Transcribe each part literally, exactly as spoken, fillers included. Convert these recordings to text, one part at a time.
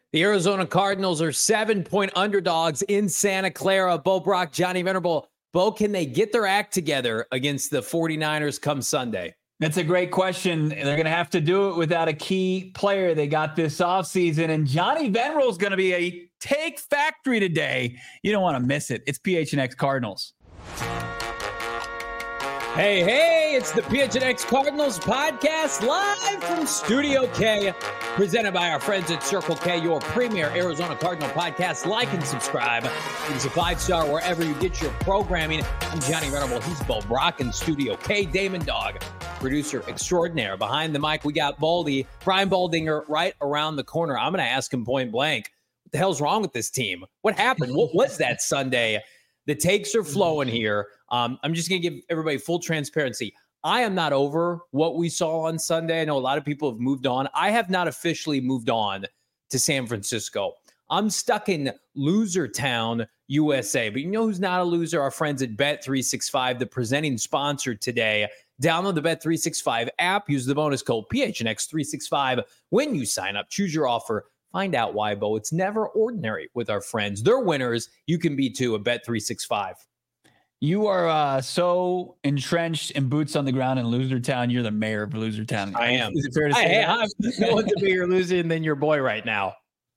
The Arizona Cardinals are seven-point underdogs in Santa Clara. Bo Brock, Johnny Venerable. Bo, can they get their act together against the 49ers come Sunday? That's a great question. They're going to have to do it without a key player they got this offseason. And Johnny Venerable is going to be a take factory today. You don't want to miss it. It's P H N X Cardinals. Hey, hey, it's the P H N X Cardinals podcast live from Studio K, presented by our friends at Circle K, your premier Arizona Cardinal podcast. Like and subscribe. It's a five-star wherever you get your programming. I'm Johnny Venerable. He's Bo Brock in Studio K. Damon Dog, producer extraordinaire. Behind the mic, we got Baldy, Brian Baldinger, right around the corner. I'm going to ask him point blank, what the hell's wrong with this team? What happened? What was that Sunday? The takes are flowing here. Um, I'm just going to give everybody full transparency. I am not over what we saw on Sunday. I know a lot of people have moved on. I have not officially moved on to San Francisco. I'm stuck in loser town, U S A. But you know who's not a loser? Our friends at Bet three sixty-five, the presenting sponsor today. Download the Bet three sixty-five app. Use the bonus code P H N X three sixty-five when you sign up. Choose your offer. Find out why, Bo. It's never ordinary with our friends. They're winners. You can be too at Bet three sixty-five. You are uh, so entrenched in boots on the ground in Loser Town. You're the mayor of Loser Town. I am. Is it fair to say? Hey, I'm going to be your loser than your boy right now.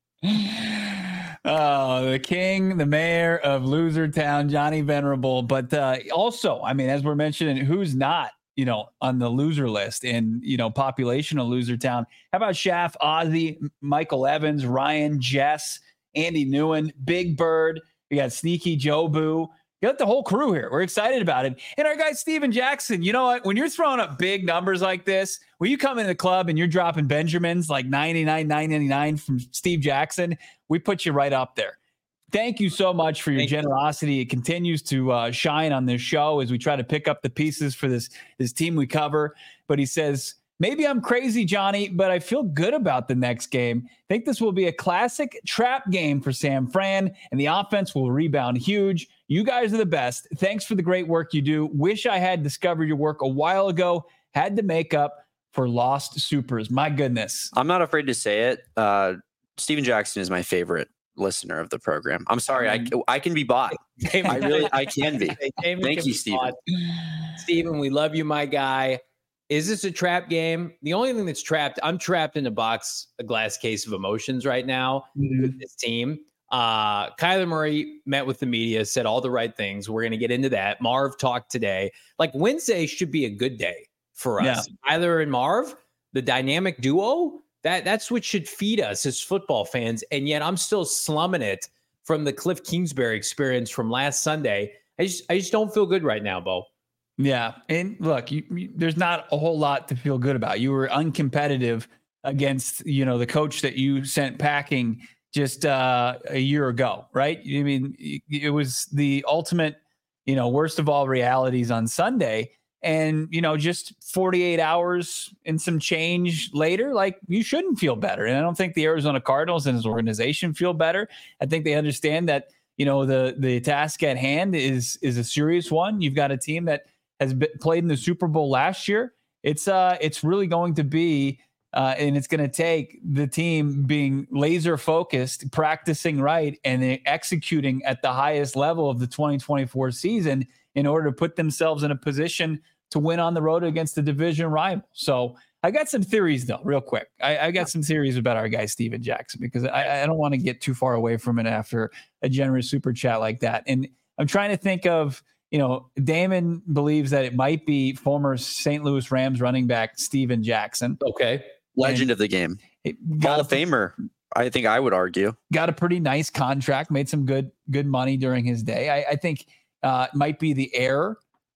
Oh, the king, the mayor of Loser Town, Johnny Venerable. But uh, also, I mean, as we're mentioning, who's not, you know, on the loser list and, you know, population of Loser Town? How about Shaft, Ozzy, Michael Evans, Ryan, Jess, Andy Newen, Big Bird? We got Sneaky Joe Boo. You got the whole crew here. We're excited about it. And our guy, Steven Jackson, you know what? When you're throwing up big numbers like this, when you come into the club and you're dropping Benjamins like ninety-nine ninety-nine from Steve Jackson, we put you right up there. Thank you so much for your Thank generosity. You. It continues to uh, shine on this show as we try to pick up the pieces for this, this team we cover. But he says, maybe I'm crazy, Johnny, but I feel good about the next game. I think this will be a classic trap game for San Fran, and the offense will rebound huge. You guys are the best. Thanks for the great work you do. Wish I had discovered your work a while ago. Had to make up for lost supers. My goodness. I'm not afraid to say it. Uh, Steven Jackson is my favorite listener of the program. I'm sorry. I, I can be bought. I really, I can be. Thank you, Steven. Steven, we love you, my guy. Is this a trap game? The only thing that's trapped, I'm trapped in a box, a glass case of emotions right now mm-hmm. with this team. Uh, Kyler Murray met with the media, said all the right things. We're going to get into that. Marv talked today. Like Wednesday should be a good day for us. Yeah. Kyler and Marv, the dynamic duo, that that's what should feed us as football fans. And yet I'm still slumming it from the Cliff Kingsbury experience from last Sunday. I just, I just don't feel good right now, Bo. Yeah. And look, you, you, there's not a whole lot to feel good about. You were uncompetitive against, you know, the coach that you sent packing just uh, a year ago, right? I mean, it was the ultimate, you know, worst of all realities on Sunday. And, you know, just forty-eight hours and some change later, like you shouldn't feel better. And I don't think the Arizona Cardinals and his organization feel better. I think they understand that, you know, the, the task at hand is, is a serious one. You've got a team that has been, played in the Super Bowl last year. It's uh, it's really going to be, uh, and it's going to take the team being laser focused, practicing right, and executing at the highest level of the twenty twenty-four season in order to put themselves in a position to win on the road against the division rival. So I got some theories, though, real quick. I, I got some theories about our guy, Steven Jackson, because I, I don't want to get too far away from it after a generous super chat like that. And I'm trying to think of, you know, Damon believes that it might be former Saint Louis Rams running back Steven Jackson. Okay. Legend and of the game. Hall of Famer, I think I would argue. Got a pretty nice contract, made some good good money during his day. I, I think uh, it might be the heir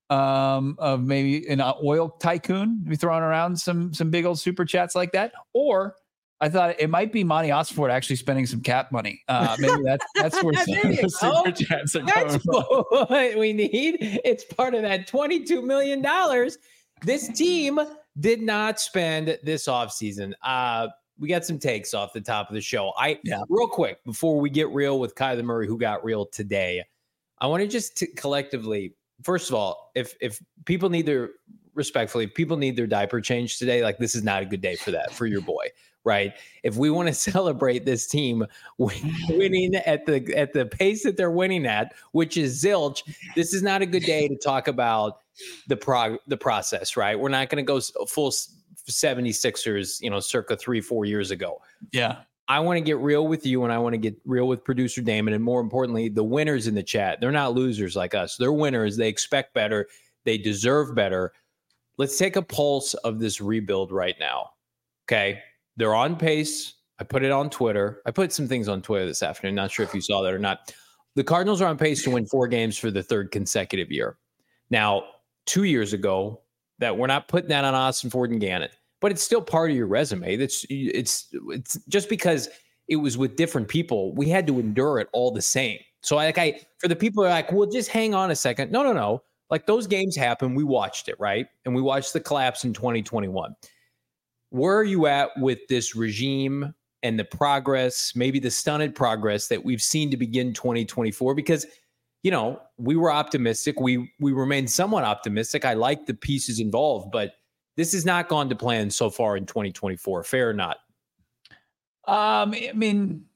um, of maybe an oil tycoon to be throwing around some some big old super chats like that. Or I thought it might be Monty Osford actually spending some cap money. Uh, maybe that's that's where some of the super chats are that's what we need. It's part of that twenty-two million dollars. This team did not spend this offseason. Uh, we got some takes off the top of the show. I yeah. Real quick, before we get real with Kyler Murray, who got real today, I want to just t- collectively, first of all, if if people need their, respectfully, if people need their diaper changed today, like this is not a good day for that, for your boy, right? If we want to celebrate this team winning at the at the pace that they're winning at, which is zilch, this is not a good day to talk about the prog the process, right? We're not going to go full seventy-sixers, you know, circa three, four years ago. Yeah. I want to get real with you, and I want to get real with producer Damon, and more importantly, the winners in the chat. They're not losers like us. They're winners. They expect better. They deserve better. Let's take a pulse of this rebuild right now. Okay. They're on pace. I put it on Twitter. I put some things on Twitter this afternoon. Not sure if you saw that or not. The Cardinals are on pace to win four games for the third consecutive year. Now, two years ago, that we're not putting that on Austin Ford and Gannon, but it's still part of your resume. That's it's it's just because it was with different people, we had to endure it all the same. So like I, for the people who are like, well, just hang on a second. No, no, no. Like those games happen. We watched it, right? And we watched the collapse in twenty twenty-one. Where are you at with this regime and the progress, maybe the stunted progress that we've seen to begin twenty twenty-four? Because, you know, we were optimistic. We we remain somewhat optimistic. I like the pieces involved, but this has not gone to plan so far in twenty twenty-four. Fair or not? Um, I mean,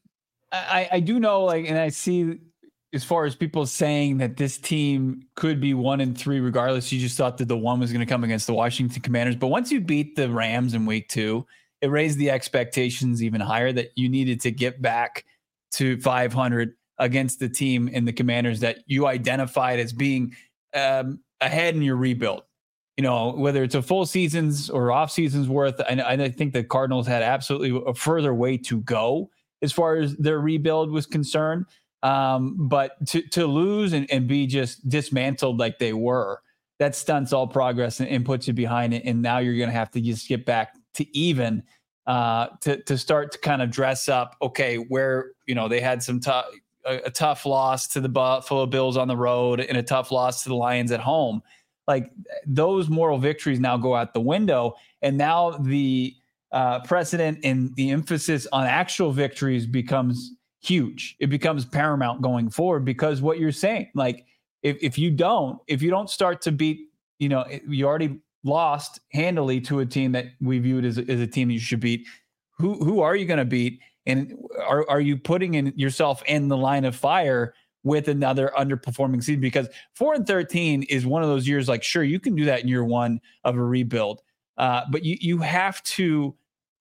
I, I do know, like, and I see as far as people saying that this team could be one and three regardless. You just thought that the one was going to come against the Washington Commanders. But once you beat the Rams in week two, it raised the expectations even higher that you needed to get back to five hundred against the team and the Commanders that you identified as being um, ahead in your rebuild. You know, whether it's a full season's or off season's worth, I, I think the Cardinals had absolutely a further way to go as far as their rebuild was concerned. Um, but to, to lose and, and be just dismantled like they were, that stunts all progress and, and puts you behind it. And now you're going to have to just get back to even uh, to, to start to kind of dress up. Okay, where, you know, they had some tough, a, a tough loss to the Buffalo Bills on the road and a tough loss to the Lions at home. Like those moral victories now go out the window. And now the uh, precedent and the emphasis on actual victories becomes huge. It becomes paramount going forward because what you're saying, like if, if you don't, if you don't start to beat, you know, you already lost handily to a team that we viewed as, as a team you should beat. Who, who are you going to beat? And are, are you putting in yourself in the line of fire with another underperforming season? Because four and thirteen is one of those years, like, sure, you can do that in year one of a rebuild. Uh, but you, you have to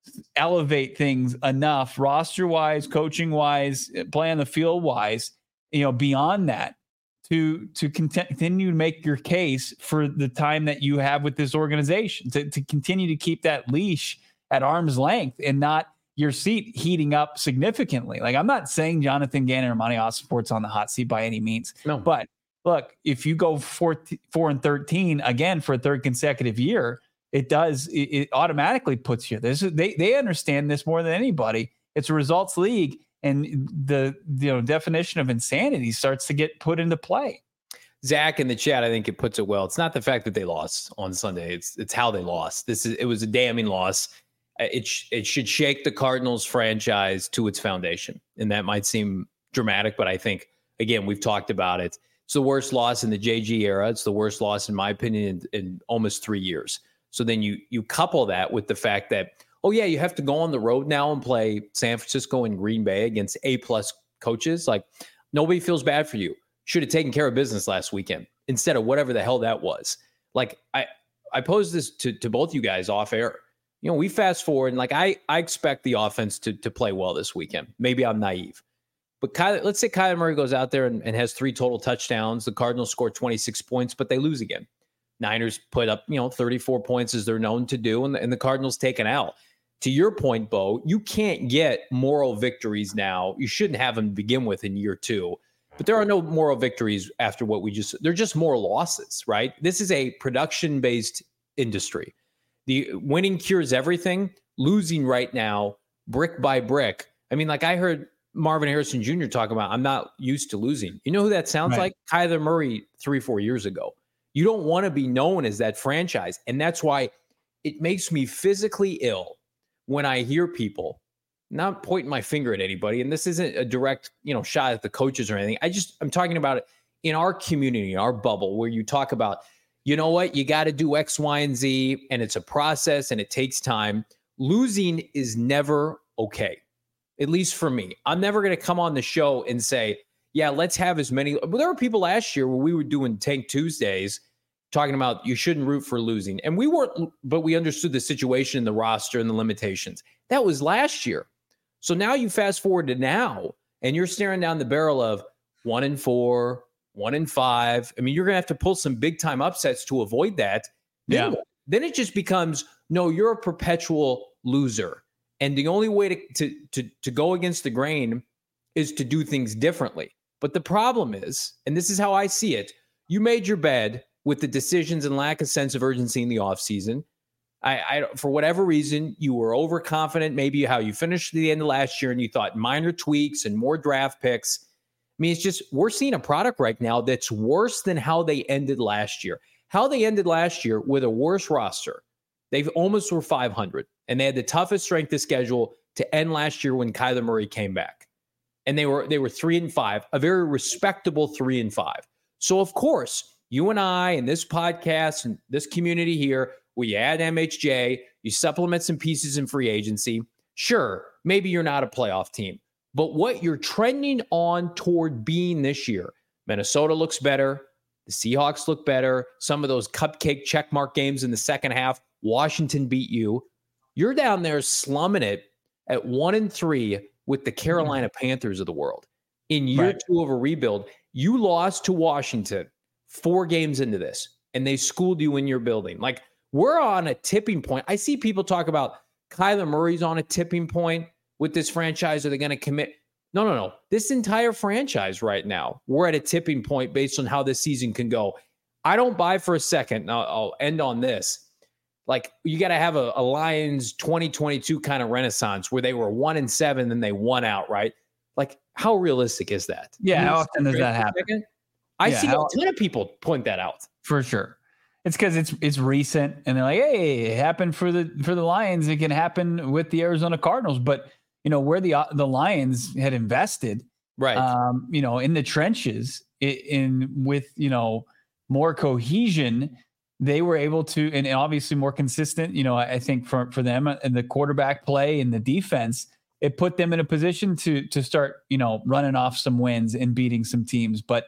elevate things enough roster wise, coaching wise, play on the field wise, you know, beyond that to, to continue to make your case for the time that you have with this organization, to, to continue to keep that leash at arm's length and not your seat heating up significantly. Like I'm not saying Jonathan Gannon or Monty Ossenfort's on the hot seat by any means, no, but look, if you go four, four and thirteen again for a third consecutive year, it does, it, it automatically puts you, this is, they, they understand this more than anybody. It's a results league, and the, you know, definition of insanity starts to get put into play. Zach in the chat, I think it puts it well. It's not the fact that they lost on Sunday. It's, it's how they lost. This is, it was a damning loss. It, sh- it should shake the Cardinals franchise to its foundation. And that might seem dramatic, but I think, again, we've talked about it. It's the worst loss in the J G era. It's the worst loss, in my opinion, in, in almost three years. So then you you couple that with the fact that, oh, yeah, you have to go on the road now and play San Francisco and Green Bay against A-plus coaches. Like, nobody feels bad for you. Should have taken care of business last weekend instead of whatever the hell that was. Like, I, I posed this to, to both you guys off air. You know, we fast forward, and, like, I, I expect the offense to, to play well this weekend. Maybe I'm naive. But Kyler, let's say Kyler Murray goes out there and, and has three total touchdowns. The Cardinals score twenty-six points, but they lose again. Niners put up, you know, thirty-four points as they're known to do, and the, and the Cardinals take an L. To your point, Bo, you can't get moral victories now. You shouldn't have them to begin with in year two. But there are no moral victories after what we just – they're just more losses, right? This is a production-based industry. The winning cures everything. Losing right now, brick by brick. I mean, like I heard Marvin Harrison Junior talk about, I'm not used to losing. You know who that sounds right. like? Kyler Murray three, four years ago. You don't want to be known as that franchise. And that's why it makes me physically ill when I hear people, not pointing my finger at anybody, and this isn't a direct, you know, shot at the coaches or anything. I just, I'm talking about it in our community, in our bubble, where you talk about, you know what, you got to do X, Y, and Z, and it's a process and it takes time. losing is never okay, at least for me. I'm never going to come on the show and say, yeah, let's have as many. But there were people last year where we were doing Tank Tuesdays talking about you shouldn't root for losing. And we weren't, but we understood the situation, the roster, and the limitations. That was last year. So now you fast forward to now, and you're staring down the barrel of one and four, one and five. I mean, you're going to have to pull some big time upsets to avoid that. Then, yeah. then it just becomes, no, you're a perpetual loser. And the only way to, to, to, to go against the grain is to do things differently. But the problem is, and this is how I see it, you made your bed with the decisions and lack of sense of urgency in the offseason. I, I, for whatever reason, you were overconfident, maybe how you finished the end of last year, and you thought minor tweaks and more draft picks. I mean, it's just, we're seeing a product right now that's worse than how they ended last year. How they ended last year with a worse roster. They've almost were five hundred, and they had the toughest strength of schedule to end last year when Kyler Murray came back. And they were they were three and five, a very respectable three and five. So of course, you and I and this podcast and this community here, we add M H J, you supplement some pieces in free agency. Sure, maybe you're not a playoff team, but what you're trending on toward being this year, Minnesota looks better. The Seahawks look better. Some of those cupcake checkmark games in the second half, Washington beat you. You're down there slumming it at one and three with the Carolina Panthers of the world. In year right. two of a rebuild, you lost to Washington four games into this, and they schooled you in your building. Like, we're on a tipping point. I see people talk about Kyler Murray's on a tipping point with this franchise. Are they going to commit? No, no, no. This entire franchise right now, we're at a tipping point based on how this season can go. I don't buy for a second. Now I'll end on this. Like, you got to have a, a Lions twenty twenty-two kind of renaissance where they were one and seven and they won outright. Like, how realistic is that? Yeah, how often does that happen? I yeah, see how, a ton of people point that out. For sure. It's because it's it's recent, and they're like, hey, it happened for the for the Lions. It can happen with the Arizona Cardinals. But, you know, where the the Lions had invested, right? Um, you know, in the trenches, in, in with, you know, more cohesion, they were able to, and obviously more consistent, you know, I think for, for them and the quarterback play and the defense, it put them in a position to, to start, you know, running off some wins and beating some teams. But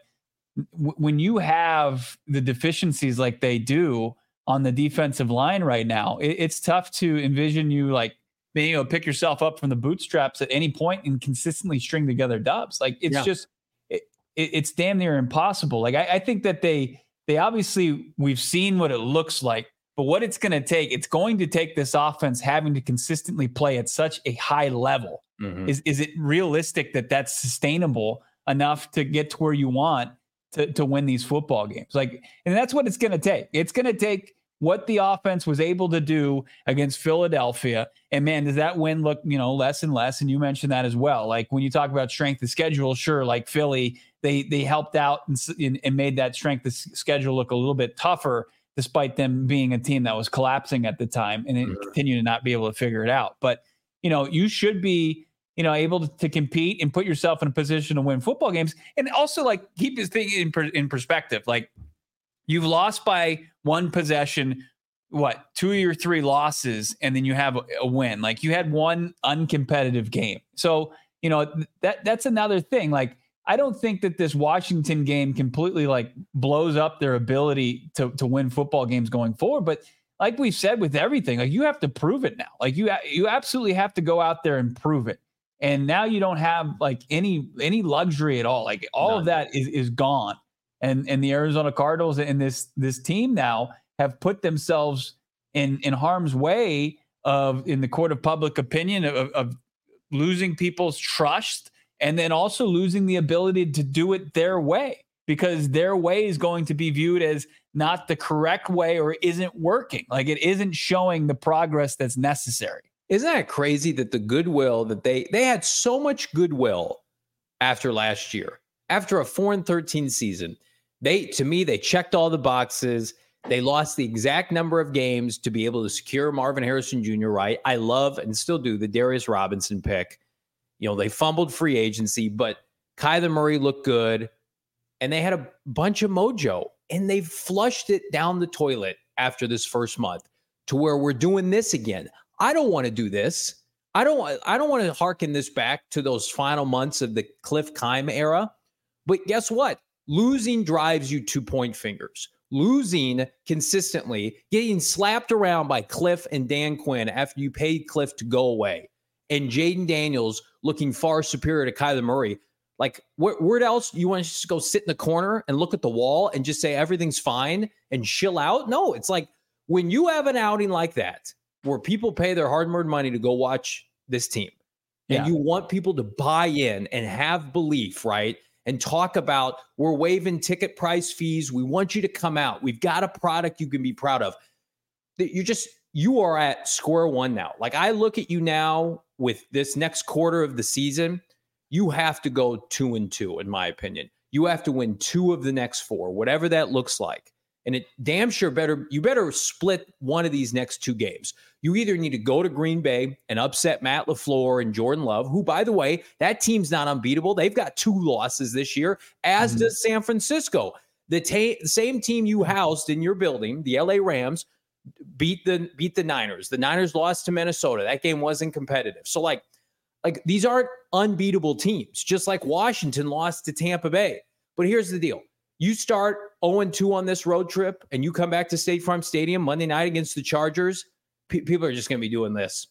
w- when you have the deficiencies like they do on the defensive line right now, it, it's tough to envision you like being able to pick yourself up from the bootstraps at any point and consistently string together dubs. Like, it's yeah. just, it, it, it's damn near impossible. Like, I, I think that they, They obviously, we've seen what it looks like, but what it's going to take, it's going to take this offense having to consistently play at such a high level. Mm-hmm. Is is it realistic that that's sustainable enough to get to where you want to, to win these football games? Like, and that's what it's going to take. It's going to take what the offense was able to do against Philadelphia. And man, does that win look, you know, less and less? And you mentioned that as well. Like, when you talk about strength of schedule, sure, like Philly, they they helped out and, and made that strength of schedule look a little bit tougher, despite them being a team that was collapsing at the time and mm-hmm. continue to not be able to figure it out. But, you know, you should be, you know, able to, to compete and put yourself in a position to win football games. And also, like, keep this thing in, per, in perspective. Like, you've lost by one possession, what, two of your three losses, and then you have a, a win. Like, you had one uncompetitive game. So, you know, that that's another thing. Like, I don't think that this Washington game completely like blows up their ability to, to win football games going forward. But like we've said with everything, like, you have to prove it now. Like, you, you absolutely have to go out there and prove it. And now you don't have like any, any luxury at all. Like, all None. of that is, is gone. And, and the Arizona Cardinals and this, this team now have put themselves in, in harm's way of, in the court of public opinion, of, of losing people's trust. And then also losing the ability to do it their way, because their way is going to be viewed as not the correct way or isn't working. Like, it isn't showing the progress that's necessary. Isn't that crazy that the goodwill that they, they had so much goodwill after last year, after a four and thirteen season, they, to me, they checked all the boxes. They lost the exact number of games to be able to secure Marvin Harrison Junior, right? I love and still do the Darius Robinson pick. You know, they fumbled free agency, but Kyler Murray looked good, and they had a bunch of mojo, and they flushed it down the toilet after this first month to where we're doing this again. I don't want to do this. I don't, I don't want to hearken this back to those final months of the Cliff Keim era. But guess what? Losing drives you to point fingers. Losing consistently, getting slapped around by Cliff and Dan Quinn after you paid Cliff to go away, and Jaden Daniels looking far superior to Kyler Murray. Like, where, where else you want to just go sit in the corner and look at the wall and just say everything's fine and chill out? No, it's like when you have an outing like that, where people pay their hard-earned money to go watch this team. And yeah. you want people to buy in and have belief, right? And talk about, we're waiving ticket price fees. We want you to come out. We've got a product you can be proud of. You just, you are at square one now. Like, I look at you now with this next quarter of the season, you have to go two and two, in my opinion. You have to win two of the next four, whatever that looks like. And it damn sure better, you better split one of these next two games. You either need to go to Green Bay and upset Matt LaFleur and Jordan Love, who, by the way, that team's not unbeatable. They've got two losses this year, as mm-hmm. does San Francisco. The ta- same team you housed in your building, the L A Rams, beat the beat the Niners. The Niners lost to Minnesota. That game wasn't competitive. So, like, like these aren't unbeatable teams, just like Washington lost to Tampa Bay. But here's the deal. You start oh and two on this road trip and you come back to State Farm Stadium Monday night against the Chargers, pe- people are just going to be doing this.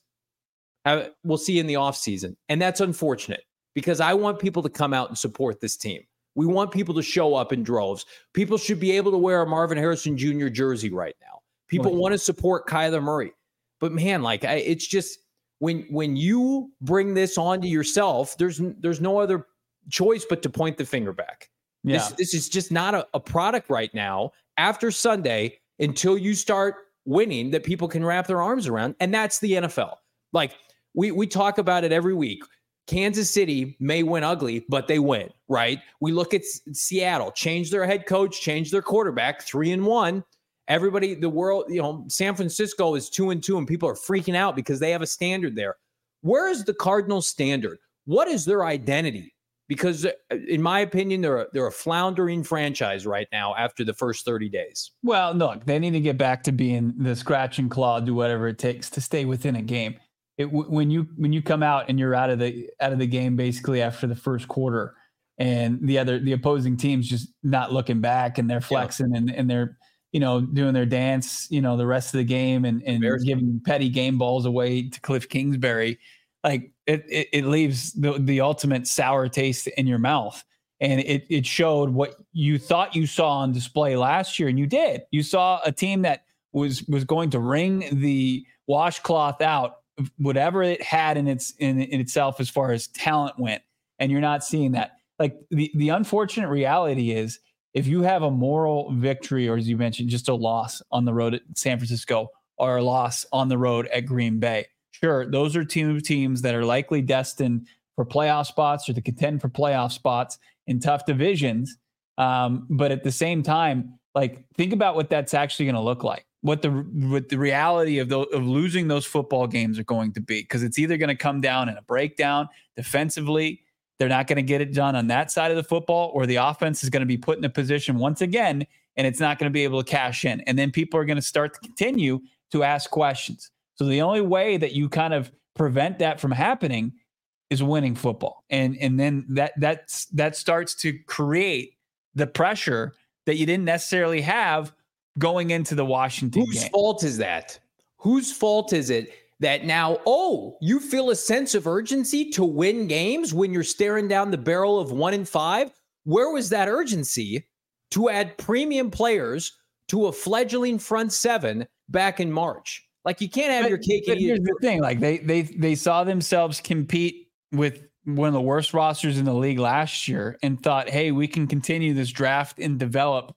I, we'll see you in the offseason. And that's unfortunate because I want people to come out and support this team. We want people to show up in droves. People should be able to wear a Marvin Harrison Junior jersey right now. People want to support Kyler Murray. But, man, like, I, it's just when when you bring this onto yourself, there's there's no other choice but to point the finger back. Yeah. This, this is just not a, a product right now after Sunday until you start winning that people can wrap their arms around. And that's the N F L. Like, we we talk about it every week. Kansas City may win ugly, but they win, right? We look at S- Seattle, change their head coach, change their quarterback, three and one. Everybody, the world, you know, San Francisco is two and two, and people are freaking out because they have a standard there. Where is the Cardinals' standard? What is their identity? Because, in my opinion, they're a, they're a floundering franchise right now after the first thirty days. Well, look, they need to get back to being the scratch and claw, do whatever it takes to stay within a game. It, when you when you come out and you're out of the out of the game basically after the first quarter, and the other the opposing team's just not looking back and they're flexing yeah. and, and they're you know doing their dance, you know, the rest of the game and, and giving petty game balls away to Cliff Kingsbury. Like it, it, it leaves the, the ultimate sour taste in your mouth. And it, it showed what you thought you saw on display last year. And you did. You saw a team that was, was going to wring the washcloth out, whatever it had in its, in, in itself, as far as talent went. And you're not seeing that. Like the, the unfortunate reality is if you have a moral victory, or as you mentioned, just a loss on the road at San Francisco or a loss on the road at Green Bay, sure, those are two teams that are likely destined for playoff spots or to contend for playoff spots in tough divisions. Um, but at the same time, like, think about what that's actually going to look like, what the what the reality of, the, of losing those football games are going to be, because it's either going to come down in a breakdown defensively. They're not going to get it done on that side of the football, or the offense is going to be put in a position once again, and it's not going to be able to cash in. And then people are going to start to continue to ask questions. So the only way that you kind of prevent that from happening is winning football. And and then that that's that starts to create the pressure that you didn't necessarily have going into the Washington Whose game. fault is that? Whose fault is it that now, oh, you feel a sense of urgency to win games when you're staring down the barrel of one and five? Where was that urgency to add premium players to a fledgling front seven back in March? Like, you can't have but, your cake and eat it. Here's the thing. Like, they they they saw themselves compete with one of the worst rosters in the league last year and thought, hey, we can continue this draft and develop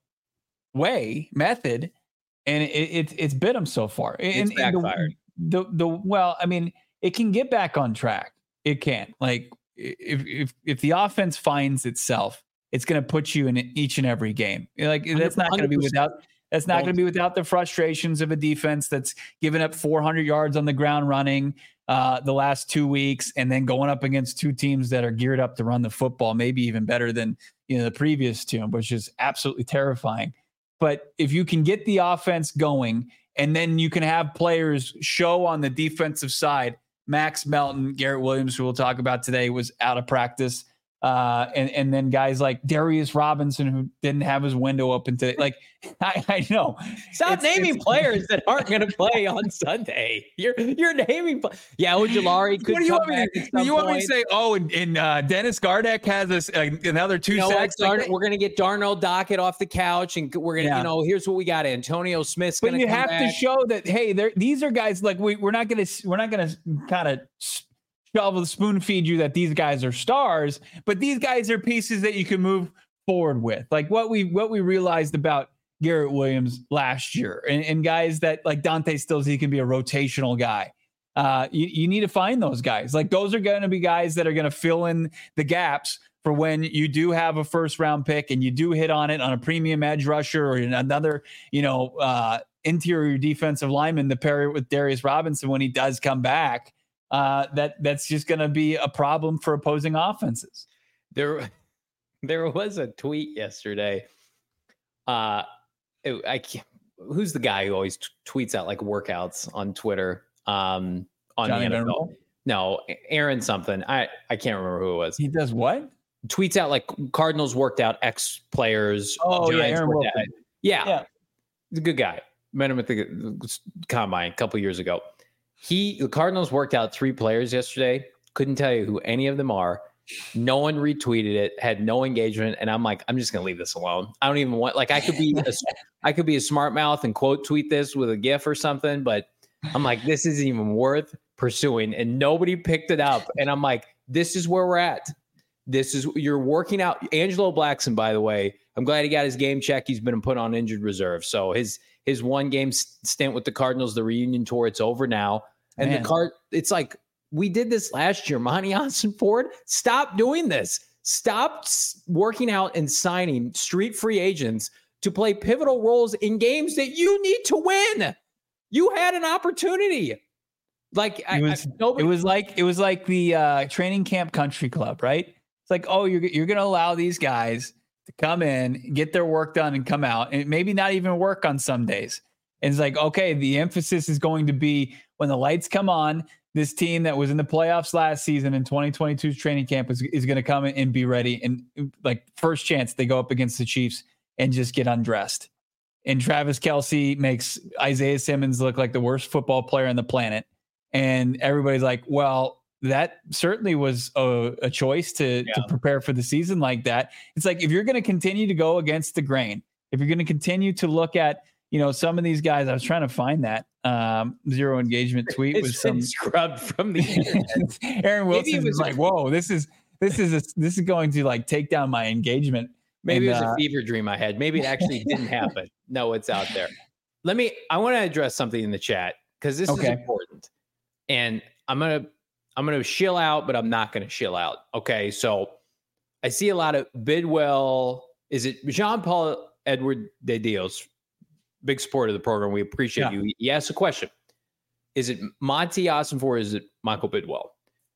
way method. And it, it it's bit them so far. It's and, backfired. And the, the the well, I mean, it can get back on track. It can. Like, if if if the offense finds itself, it's going to put you in each and every game. Like, that's not going to be without. That's not going to be without the frustrations of a defense that's given up four hundred yards on the ground running uh, the last two weeks, and then going up against two teams that are geared up to run the football, maybe even better than you know the previous two, which is absolutely terrifying. But if you can get the offense going And then you can have players show on the defensive side. Max Melton, Garrett Williams, who we'll talk about today, was out of practice. Uh, and, and then guys like Darius Robinson, who didn't have his window open today. Like, I, I know. Stop it's, naming it's, players that aren't going to play on Sunday. You're you're naming. Yeah, Ojulari could what do you come want me back to, at some you want point. me to say, oh, and, and uh, Dennis Gardeck has this, uh, another two you know sacks. what, Like, we're going to get Darnell Dockett off the couch, and we're going to, Yeah. you know, here's what we got. Antonio Smith's going but to you come have back. to show that, hey, these are guys like we, we're not going to we're not going to kind of shovel spoon feed you that these guys are stars, but these guys are pieces that you can move forward with. Like what we what we realized about Garrett Williams last year, and, and guys that like Dante Stills, he can be a rotational guy. Uh, you, you need to find those guys. Like those are going to be guys that are going to fill in the gaps for when you do have a first round pick and you do hit on it on a premium edge rusher or another, you know, uh, interior defensive lineman to pair it with Darius Robinson when he does come back. Uh, that that's just going to be a problem for opposing offenses. There, there was a tweet yesterday. Uh, it, I can't, who's the guy who always t- tweets out like workouts on Twitter? Um, on Johnny the N F L. Venerable? No, Aaron something. I I can't remember who it was. He does what? Tweets out like Cardinals worked out X players. Oh yeah, Giants Aaron worked Wilson. out- Yeah, Yeah. he's a good guy. Met him at the combine a couple years ago. He, the Cardinals worked out three players yesterday. Couldn't tell you who any of them are. No one retweeted it. Had no engagement, and I'm like, I'm just gonna leave this alone. I don't even want. Like, I could be, a, I could be a smart mouth and quote tweet this with a GIF or something, but I'm like, this isn't even worth pursuing. And nobody picked it up. And I'm like, this is where we're at. This is you're working out. Angelo Blackson, by the way, I'm glad he got his game check. He's been put on injured reserve, so his his one game stint with the Cardinals, the reunion tour, it's over now. And Man. the card, it's like we did this last year. Monty Ossenford, stop doing this. Stop working out and signing street free agents to play pivotal roles in games that you need to win. You had an opportunity. Like It I, was, I, nobody, it was like it was like the uh, training camp country club, right? It's like, oh, you're you're going to allow these guys to come in, get their work done, and come out, and maybe not even work on some days. And it's like, okay, the emphasis is going to be when the lights come on. This team that was in the playoffs last season in twenty twenty-two's training camp is, is going to come in and be ready. And like first chance they go up against the Chiefs and just get undressed. And Travis Kelce makes Isaiah Simmons look like the worst football player on the planet. And everybody's like, well, that certainly was a, a choice to, Yeah. to prepare for the season like that. It's like, if you're going to continue to go against the grain, if you're going to continue to look at, you know, some of these guys, I was trying to find that um, zero engagement tweet it's with some been scrubbed from the internet. Aaron Maybe it Wilson was was- like, whoa, this is, this is, a, this is going to like take down my engagement. Maybe And, it was uh, a fever dream I had. Maybe it actually didn't happen. No, it's out there. Let me, I want to address something in the chat because this Okay. is important. And I'm going to, I'm going to shill out, but I'm not going to shill out. Okay. So I see a lot of Bidwell. Is it Jean-Paul Edward de Dios? Big supporter of the program. We appreciate Yeah. you. He asked a question. Is it Monty Ossenford or is it Michael Bidwell?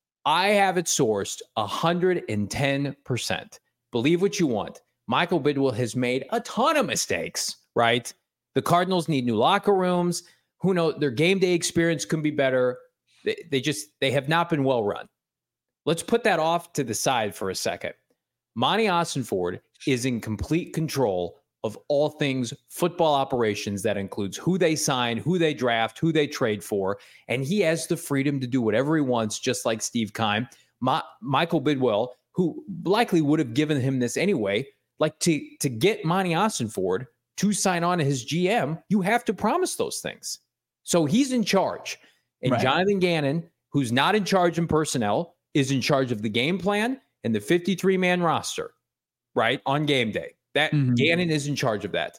I have it sourced one hundred ten percent. Believe what you want. Michael Bidwell has made a ton of mistakes, right? The Cardinals need new locker rooms. Who knows? Their game day experience can be better. They, they just, they have not been well run. Let's put that off to the side for a second. Monty Ossenford is in complete control of all things football operations. That includes who they sign, who they draft, who they trade for. And he has the freedom to do whatever he wants, just like Steve Keim. Ma- Michael Bidwell, who likely would have given him this anyway, like to, to get Monty Ossenford to sign on as G M, you have to promise those things. So he's in charge. And Right. Jonathan Gannon, who's not in charge in personnel, is in charge of the game plan and the fifty-three man roster, right, on game day. That Mhm. Gannon is in charge of that.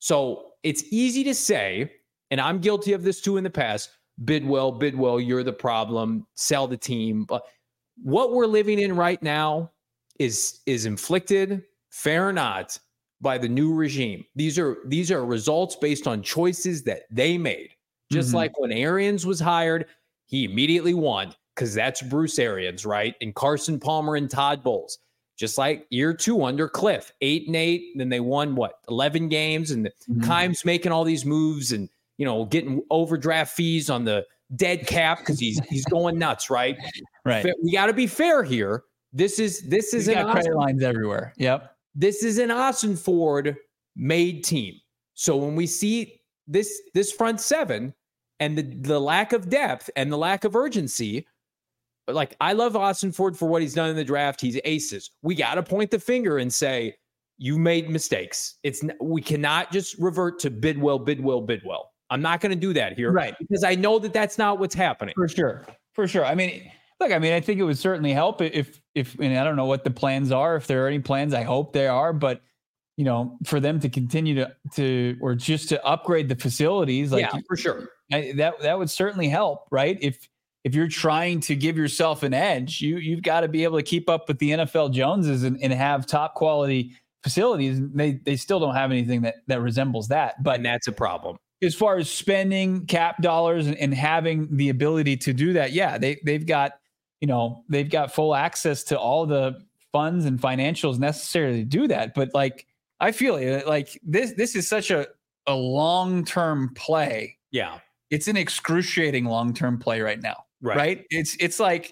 So it's easy to say, and I'm guilty of this too in the past, Bidwell, Bidwell, you're the problem, sell the team. But what we're living in right now is, is inflicted, fair or not, by the new regime. These are these are results based on choices that they made. Just Mhm. like when Arians was hired, he immediately won because that's Bruce Arians, right? And Carson Palmer and Todd Bowles. Just like year two under Cliff, eight and eight. And then they won, what, eleven games? And Mhm. Keim's making all these moves and you know, getting overdraft fees on the dead cap because he's he's going nuts, right? Right. We got to be fair here. This is this is He's an got credit lines everywhere. Yep. This is an Ossenford made team. So when we see this this front seven and the the lack of depth and the lack of urgency, like I love Ossenford for what he's done in the draft. He's aces. We got to point the finger and say you made mistakes. It's we cannot just revert to Bidwell, Bidwell, Bidwell. I'm not going to do that here, right? Because I know that that's not what's happening. For sure, for sure. I mean, look, I mean, I think it would certainly help if if and I don't know what the plans are. If there are any plans, I hope there are. But you know, for them to continue to to or just to upgrade the facilities, like yeah, for sure, I, that that would certainly help, right? If if you're trying to give yourself an edge, you you've got to be able to keep up with the N F L Joneses and, and have top quality facilities. They they still don't have anything that that resembles that, but and that's a problem. As far as spending cap dollars and, and having the ability to do that, yeah, they they've got, you know, they've got full access to all the funds and financials necessary to do that. But like, I feel it, like this this is such a, a long-term play. Yeah. It's an excruciating long-term play right now. Right. Right. It's it's like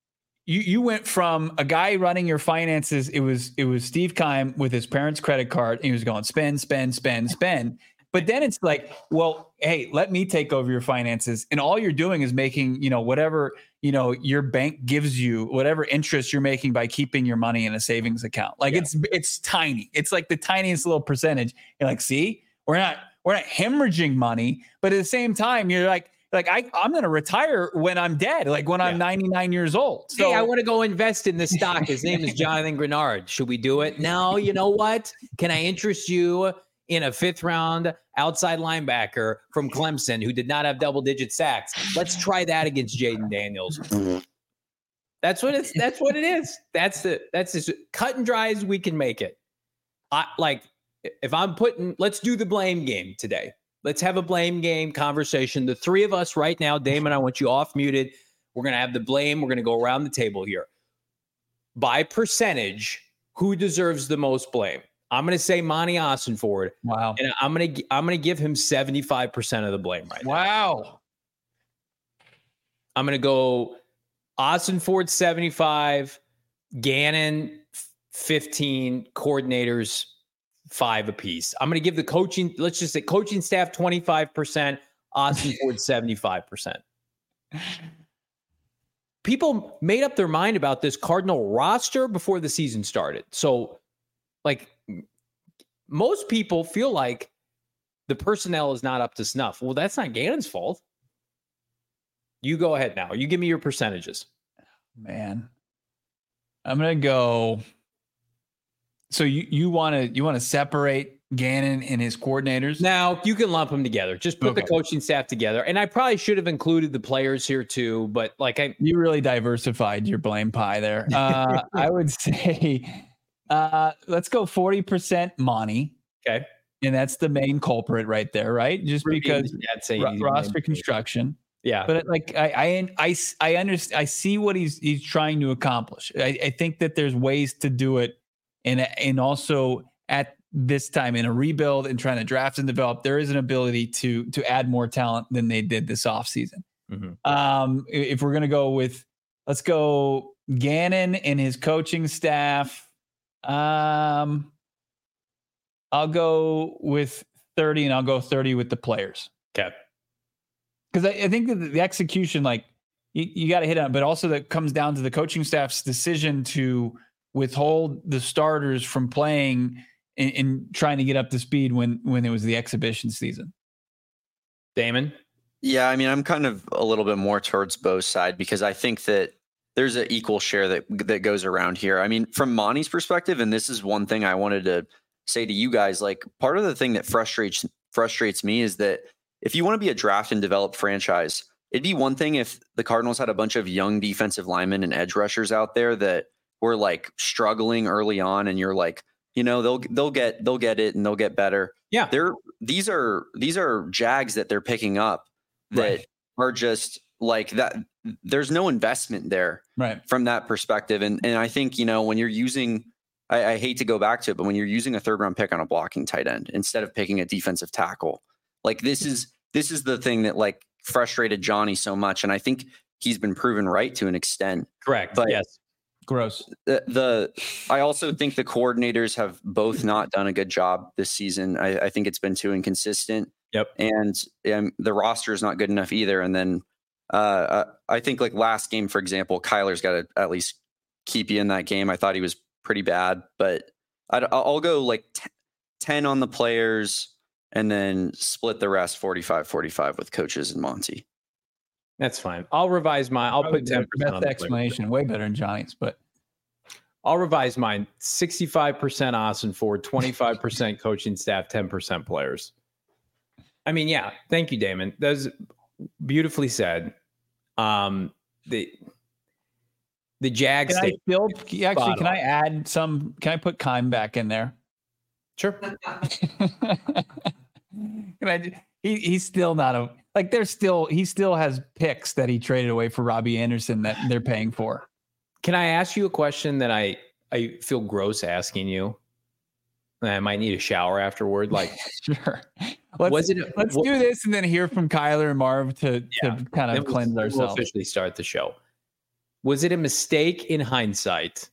you you went from a guy running your finances. It was it was Steve Keim with his parents' credit card. And he was going spend, spend, spend, spend. But then it's like, well, hey, let me take over your finances. And all you're doing is making, you know, whatever, you know, your bank gives you, whatever interest you're making by keeping your money in a savings account. Like yeah. it's it's tiny. It's like the tiniest little percentage. You're like, see, we're not we're not hemorrhaging money. But at the same time, you're like, like I, I'm going to retire when I'm dead, like when yeah. I'm ninety-nine years old. So hey, I want to go invest in the stock. His name is Jonathan Grenard. Should we do it? No, you know what? Can I interest you in a fifth round outside linebacker from Clemson who did not have double digit sacks? Let's try that against Jaden Daniels. That's what it's, that's what it is. That's the, that's as cut and dry as we can make it. I like, if I'm putting, let's do the blame game today. Let's have a blame game conversation. The three of us right now, Damon, I want you off muted. We're going to have the blame. We're going to go around the table here. By percentage, who deserves the most blame? I'm going to say Monty Ossenford. Wow. And I'm going to I'm going to give him seventy-five percent of the blame right now. Wow. I'm going to go Ossenford seventy-five, Gannon fifteen, coordinators five apiece. I'm going to give the coaching, let's just say coaching staff twenty-five percent, Ossenford seventy-five percent. People made up their mind about this Cardinal roster before the season started. So like most people feel like the personnel is not up to snuff. Well, that's not Gannon's fault. You go ahead now. You give me your percentages. Man, I'm going to go. So you, you want to, you want to separate Gannon and his coordinators? Now you can lump them together. Just put okay. the coaching staff together. And I probably should have included the players here too, but like I, you really diversified your blame pie there. Uh, I would say, Uh, let's go forty percent Monty. Okay. And that's the main culprit right there, right? Just because r- roster construction. Yeah. But like, I, I, I, I understand, I see what he's, he's trying to accomplish. I, I think that there's ways to do it. And, and also at this time in a rebuild and trying to draft and develop, there is an ability to, to add more talent than they did this offseason. Mm-hmm. Um, if we're going to go with, let's go Gannon and his coaching staff. Um, I'll go with thirty and I'll go thirty with the players. Okay. Because I, I think that the execution, like you, you got to hit on, but also that comes down to the coaching staff's decision to withhold the starters from playing and, and trying to get up to speed when, when it was the exhibition season. Damon? Yeah. I mean, I'm kind of a little bit more towards Bo's side because I think that there's an equal share that that goes around here. I mean, from Monty's perspective, and this is one thing I wanted to say to you guys, like part of the thing that frustrates frustrates me is that if you want to be a draft and develop franchise, it'd be one thing if the Cardinals had a bunch of young defensive linemen and edge rushers out there that were like struggling early on, and you're like, you know, they'll they'll get they'll get it and they'll get better. Yeah, they're these are these are Jags that they're picking up that right. are just like that. There's no investment there right. from that perspective. And and I think, you know, when you're using, I, I hate to go back to it, but when you're using a third round pick on a blocking tight end instead of picking a defensive tackle, like this is this is the thing that like frustrated Johnny so much. And I think he's been proven right to an extent. Correct. But yes. Gross. The, the I also think the coordinators have both not done a good job this season. I, I think it's been too inconsistent. Yep. And um, the roster is not good enough either. And then uh, I think like last game, for example, Kyler's got to at least keep you in that game. I thought he was pretty bad, but I'd, I'll go like t- ten on the players and then split the rest forty-five forty-five with coaches and Monty. That's fine. I'll revise mine. I'll Probably put ten percent on the the explanation. Way better than Johnny's, but I'll revise mine. sixty-five percent Austin Ford, twenty-five percent coaching staff, ten percent players. I mean, yeah. Thank you, Damon. That was beautifully said. Um, the the Jags. Can I still, actually, can I add some? Can I put Keim back in there? Sure. Can I? He he's still not a like. There's still he still has picks that he traded away for Robbie Anderson that they're paying for. Can I ask you a question that I I feel gross asking you? I might need a shower afterward. Like, sure. Let's, was it? A, let's what, do this and then hear from Kyler and Marv to, yeah, to kind of cleanse we'll, ourselves. We'll officially start the show. Was it a mistake in hindsight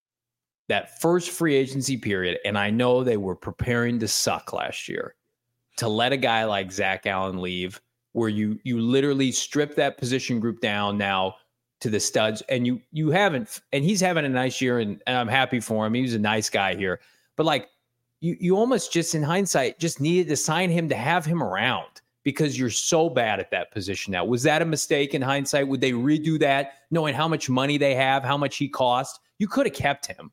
that first free agency period? And I know they were preparing to suck last year, to let a guy like Zach Allen leave, where you you literally strip that position group down now to the studs, and you you haven't, and he's having a nice year, and, and I'm happy for him. He was a nice guy here, but like. You you almost just in hindsight just needed to sign him to have him around because you're so bad at that position now. Was that a mistake in hindsight? Would they redo that knowing how much money they have, how much he cost? You could have kept him.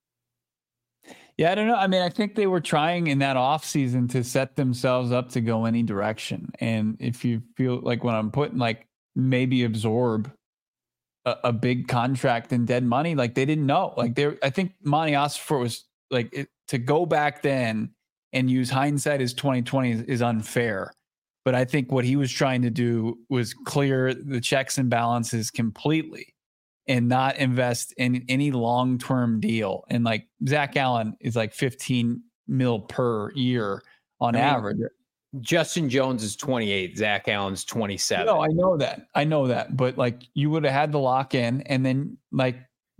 Yeah, I don't know. I mean, I think they were trying in that offseason to set themselves up to go any direction. And if you feel like when I'm putting like maybe absorb a, a big contract in dead money, like they didn't know. Like they I think Monty Ossenfort was like it, to go back then and use hindsight as twenty twenty is, is unfair. But I think what he was trying to do was clear the checks and balances completely and not invest in any long-term deal. And like Zach Allen is like fifteen mil per year on I mean, average. Justin Jones is twenty-eight. Zach Allen's twenty-seven. No, I know that. I know that. But like you would have had the lock in and then like,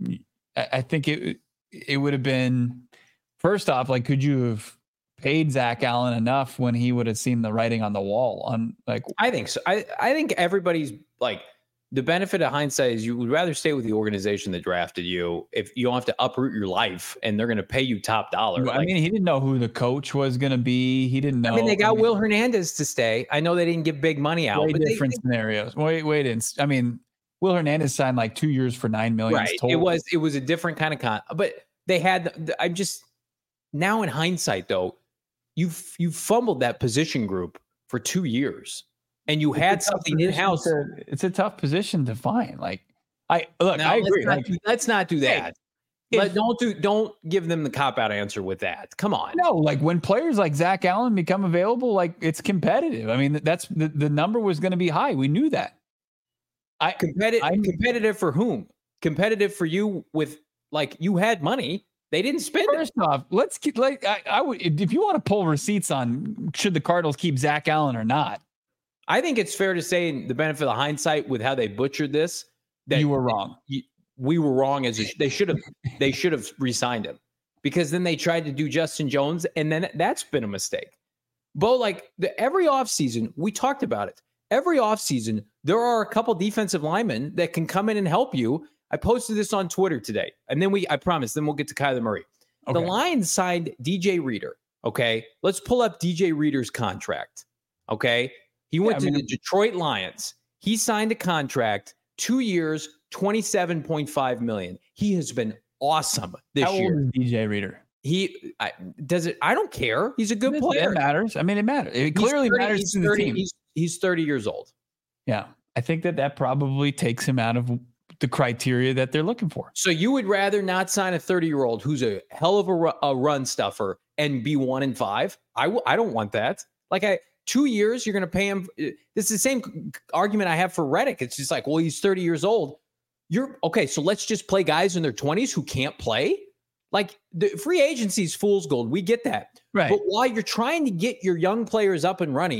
I think it, it would have been, first off, like, could you have paid Zach Allen enough when he would have seen the writing on the wall? On like, I think so. I, I think everybody's like, the benefit of hindsight is you would rather stay with the organization that drafted you if you don't have to uproot your life and they're going to pay you top dollar. I like, mean, he didn't know who the coach was going to be. He didn't know. I mean, they got I mean, Will Hernandez to stay. I know they didn't give big money out. Way but different they, scenarios. Wait, wait. I mean, Will Hernandez signed like two years for nine million. Right. Total. It was it was a different kind of con. But they had. I'm just now in hindsight though, you've you fumbled that position group for two years. And you had something in house. To, it's a tough position to find. Like, I look, now, I agree. Let's not, like, let's not do that. Hey, Let, if, don't do. Don't give them the cop out answer with that. Come on. No, like when players like Zach Allen become available, like it's competitive. I mean, that's the, the number was going to be high. We knew that. I competitive. I'm, competitive for whom? Competitive for you with like you had money. They didn't spend First it. off, let's keep like I, I would if you want to pull receipts on should the Cardinals keep Zach Allen or not. I think it's fair to say, in the benefit of hindsight, with how they butchered this, that you were wrong. You, we were wrong. As a, they should have, they should have re-signed him because then they tried to do Justin Jones, and then that's been a mistake. Bo, like the, every offseason, we talked about it. Every offseason, there are a couple defensive linemen that can come in and help you. I posted this on Twitter today, and then we, I promise, then we'll get to Kyler Murray. Okay. The Lions signed D J Reader. Okay, let's pull up D J Reader's contract. Okay. He went yeah, I mean, to the Detroit Lions. He signed a contract, two years, twenty-seven point five million dollars. He has been awesome this how year. How old is D J Reader? He I, does it. I don't care. He's a good it, player. It matters. I mean, it matters. It he's clearly thirty, matters to thirty, the team. He's, he's thirty years old. Yeah, I think that that probably takes him out of the criteria that they're looking for. So you would rather not sign a thirty-year-old who's a hell of a, a run stuffer and be one in five? I w- I don't want that. Like I. Two years, you're going to pay him. This is the same argument I have for Reddick. It's just like, well, he's thirty years old. You're okay. So let's just play guys in their twenties who can't play. Like the free agency is fool's gold. We get that. Right. But while you're trying to get your young players up and running,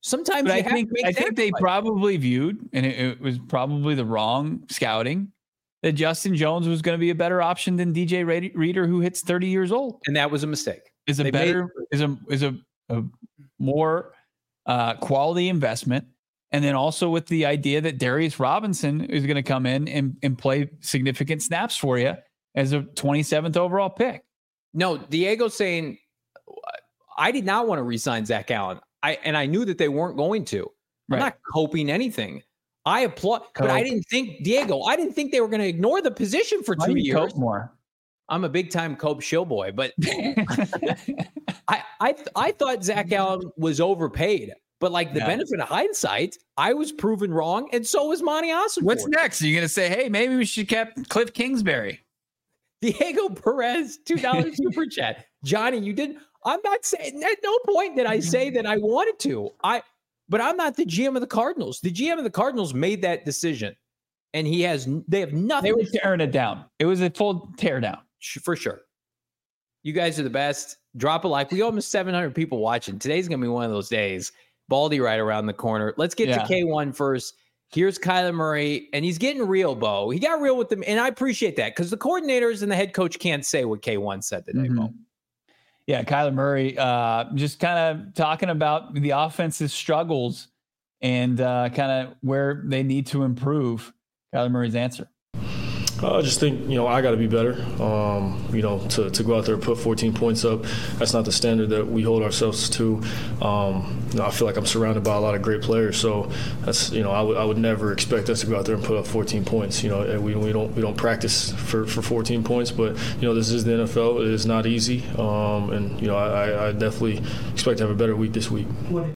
Sometimes but you I have think to make I think they sacrifices. probably viewed, and it, it was probably the wrong scouting, that Justin Jones was going to be a better option than D J Reader, who hits thirty years old. And that was a mistake. Is a They better made- is a is a, a more uh, quality investment. And then also with the idea that Darius Robinson is going to come in and, and play significant snaps for you as a twenty-seventh overall pick. No, Diego's saying, I did not want to re-sign Zach Allen. I and I knew that they weren't going to. I'm Right. not coping anything. I applaud, but I didn't think, Diego, I didn't think they were going to ignore the position for Why two do you years. cope more? I'm a big time Cope shill boy, but I, I I thought Zach Allen was overpaid. But like the Yeah. benefit of hindsight, I was proven wrong, and so was Monty Ossenford. What's next? Are you going to say, hey, maybe we should kept Cliff Kingsbury? Diego Perez, two dollars super chat. Johnny, you didn't. I'm not saying, at no point did I say that I wanted to. I, but I'm not the G M of the Cardinals. The G M of the Cardinals made that decision, and he has. They have nothing. They were tearing it down. It was a full tear down. For sure. You guys are the best. Drop a like. We almost seven hundred people watching. Today's gonna be one of those days. Baldy right around the corner. Let's get Yeah. to K one first. Here's Kyler Murray, and he's getting real, Bo. He got real with them, and I appreciate that because the coordinators and the head coach can't say what K one said today, Mhm. Bo. Yeah, Kyler Murray uh, just kind of talking about the offense's struggles and uh, kind of where they need to improve. Kyler Murray's answer. I just think, you know, I got to be better. Um, you know, to, to go out there and put fourteen points up, that's not the standard that we hold ourselves to. Um, you know, I feel like I'm surrounded by a lot of great players, so that's, you know, I would I would never expect us to go out there and put up fourteen points. You know, we we don't we don't practice for, for fourteen points, but you know, this is the N F L. It is not easy, um, and you know, I, I definitely expect to have a better week this week.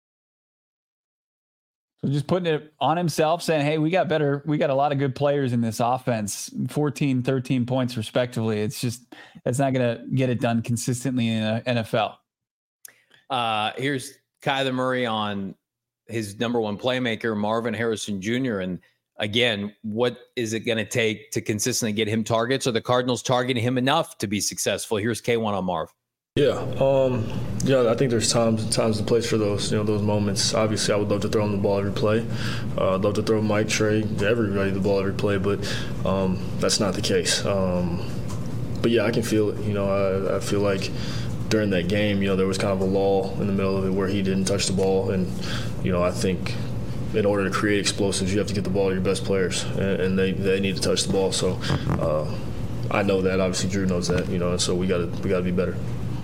So just putting it on himself, saying, hey, we got better. We got a lot of good players in this offense, fourteen, thirteen points respectively. It's just, it's not going to get it done consistently in the N F L. Uh, here's Kyler Murray on his number one playmaker, Marvin Harrison Junior And again, what is it going to take to consistently get him targets? Are the Cardinals targeting him enough to be successful? Here's K one on Marv. Yeah, um, yeah. I think there's times, times and place for those, you know, those moments. Obviously, I would love to throw him the ball every play. Uh, I'd love to throw Mike, Trey, everybody the ball every play, but um, that's not the case. Um, but yeah, I can feel it. You know, I, I feel like during that game, you know, there was kind of a lull in the middle of it where he didn't touch the ball, and you know, I think in order to create explosives, you have to get the ball to your best players, and, and they they need to touch the ball. So uh, I know that. Obviously, Drew knows that. You know, and so we got to we got to be better.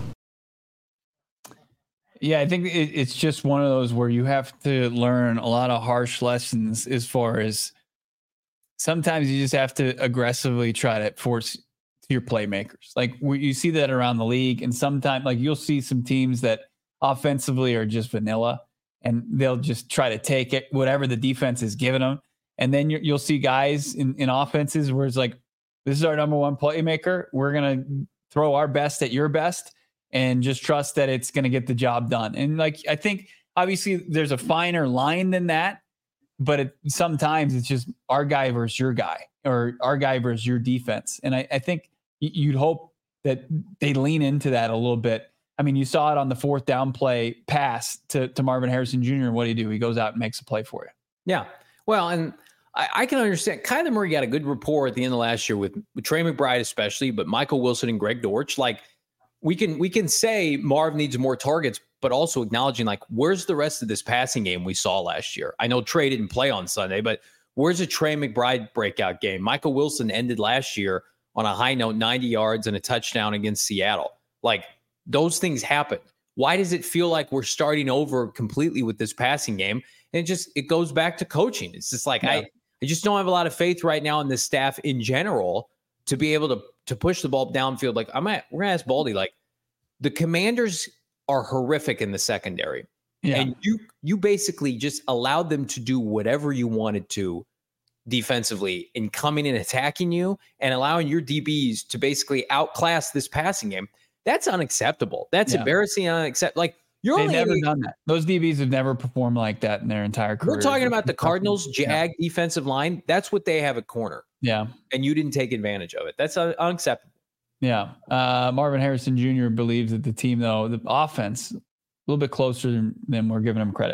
Yeah, I think it, it's just one of those where you have to learn a lot of harsh lessons as far as sometimes you just have to aggressively try to force your playmakers. Like we, you see that around the league, and sometimes like you'll see some teams that offensively are just vanilla, and they'll just try to take it, whatever the defense is giving them. And then you're, you'll see guys in, in offenses where it's like, this is our number one playmaker. We're going to throw our best at your best and just trust that it's going to get the job done. And like, I think obviously there's a finer line than that, but it, sometimes it's just our guy versus your guy, or our guy versus your defense. And I, I think you'd hope that they lean into that a little bit. I mean, you saw it on the fourth down play pass to, to Marvin Harrison Junior And what do you do? He goes out and makes a play for you. Yeah. Well, and I, I can understand Kyler Murray got a good rapport at the end of last year with, with Trey McBride, especially, but Michael Wilson and Greg Dortch. Like we can, we can say Marv needs more targets, but also acknowledging like, where's the rest of this passing game we saw last year? I know Trey didn't play on Sunday, but where's a Trey McBride breakout game? Michael Wilson ended last year on a high note, ninety yards and a touchdown against Seattle. Like those things happen. Why does it feel like we're starting over completely with this passing game? And it just, it goes back to coaching. It's just like, yeah. I, I just don't have a lot of faith right now in this staff in general to be able to, to push the ball downfield. Like I'm at, we're going to ask Baldy, like the Commanders are horrific in the secondary. Yeah. And you, you basically just allowed them to do whatever you wanted to defensively in coming and attacking you and allowing your D Bs to basically outclass this passing game. That's unacceptable. That's yeah. embarrassing and unacceptable. Like you're They've only never only, done that. Those D Bs have never performed like that in their entire career. We're talking about the Cardinals Jag yeah. defensive line. That's what they have at corner. Yeah. And you didn't take advantage of it. That's un- unacceptable. Yeah. Uh, Marvin Harrison Junior believes that the team, though, the offense, a little bit closer than, than we're giving him credit.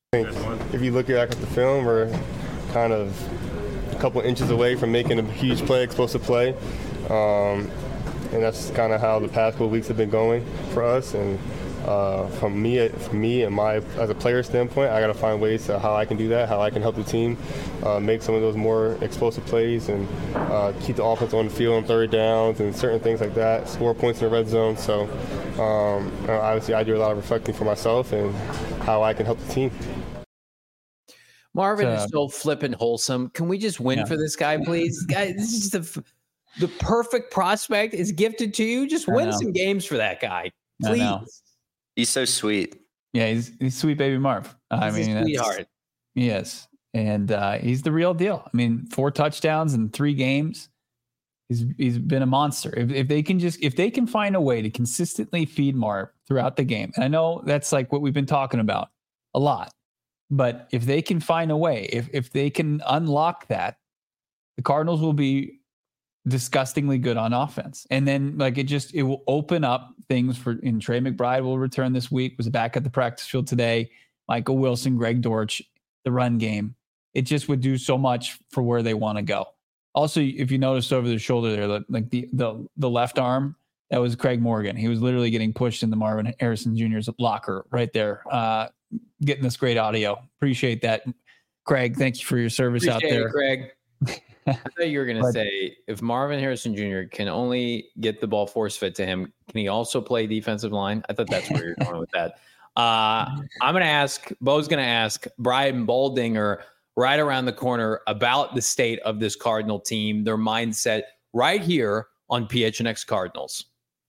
I think if you look back at the film, we're kind of a couple inches away from making a huge play, explosive play. Um, and that's kind of how the past couple weeks have been going for us. And uh, from me, from me and my as a player standpoint, I got to find ways to how I can do that, how I can help the team uh, make some of those more explosive plays and uh, keep the offense on the field on third downs and certain things like that, score points in the red zone. So um, obviously I do a lot of reflecting for myself and how I can help the team. Marvin uh, is so flippin' wholesome. Can we just win yeah. for this guy, please? Guy, this is the the perfect prospect is gifted to you. Just win some games for that guy, please. He's so sweet. Yeah, he's he's sweet baby Marv. I he's mean, a sweetheart. Yes, and uh, he's the real deal. I mean, four touchdowns in three games. He's he's been a monster. If if they can just if they can find a way to consistently feed Marv throughout the game, and I know that's like what we've been talking about a lot. But if they can find a way, if if they can unlock that, the Cardinals will be disgustingly good on offense. And then like it just it will open up things for and Trey McBride will return this week, was back at the practice field today. Michael Wilson, Greg Dortch, the run game. It just would do so much for where they want to go. Also, if you noticed over the shoulder there, like the the the left arm, that was Craig Morgan. He was literally getting pushed in the Marvin Harrison Junior's locker right there. Uh getting this great audio. Appreciate that. Craig, thank you for your service Appreciate out there. It, Craig. I thought you were going to say if Marvin Harrison Junior can only get the ball force fed to him, can he also play defensive line? I thought that's where you're going with that. Uh, I'm going to ask, Bo's going to ask Brian Baldinger right around the corner about the state of this Cardinal team, their mindset right here on P H N X Cardinals.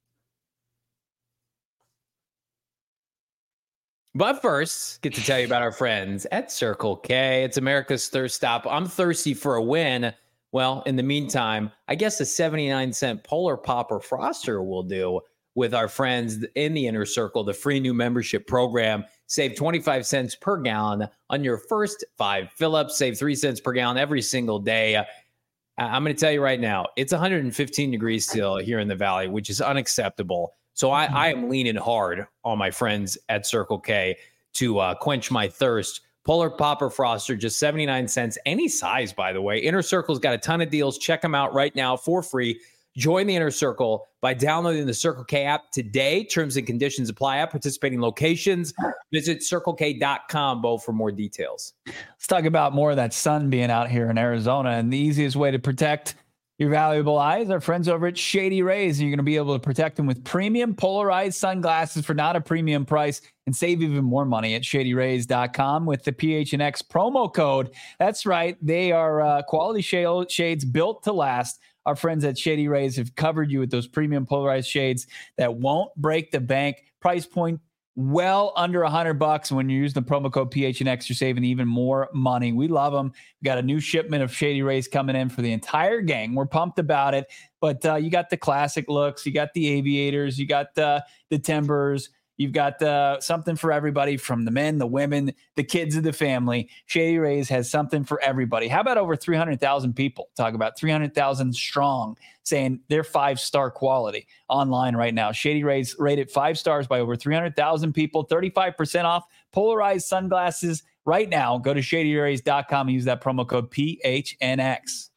But first, get to tell you about our friends at Circle K. It's America's thirst stop. I'm thirsty for a win. Well, in the meantime, I guess a seventy-nine cent Polar Popper Froster will do with our friends in the Inner Circle, the free new membership program. Save twenty-five cents per gallon on your first five fill-ups. Save three cents per gallon every single day. I'm going to tell you right now, it's one hundred fifteen degrees still here in the Valley, which is unacceptable. So I, I am leaning hard on my friends at Circle K to uh, quench my thirst. Polar Popper Froster, just seventy-nine cents, any size, by the way. Inner Circle's got a ton of deals. Check them out right now for free. Join the Inner Circle by downloading the Circle K app today. Terms and conditions apply at participating locations. Visit circle k dot com, Bo, for more details. Let's talk about more of that sun being out here in Arizona. And the easiest way to protect your valuable eyes, our friends over at Shady Rays, and you're going to be able to protect them with premium polarized sunglasses for not a premium price and save even more money at shady rays dot com with the P H N X promo code. That's right. They are uh, quality shades built to last. Our friends at Shady Rays have covered you with those premium polarized shades that won't break the bank. Price point well under a hundred bucks. And when you use the promo code P H N X, you're saving even more money. We love them. We got a new shipment of Shady Rays coming in for the entire gang. We're pumped about it. But uh, you got the classic looks, you got the aviators, you got uh, the timbers. You've got uh, something for everybody, from the men, the women, the kids of the family. Shady Rays has something for everybody. How about over three hundred thousand people? Talk about three hundred thousand strong saying they're five-star quality online right now. Shady Rays rated five stars by over three hundred thousand people. thirty-five percent off polarized sunglasses right now. Go to shady rays dot com and use that promo code P H N X.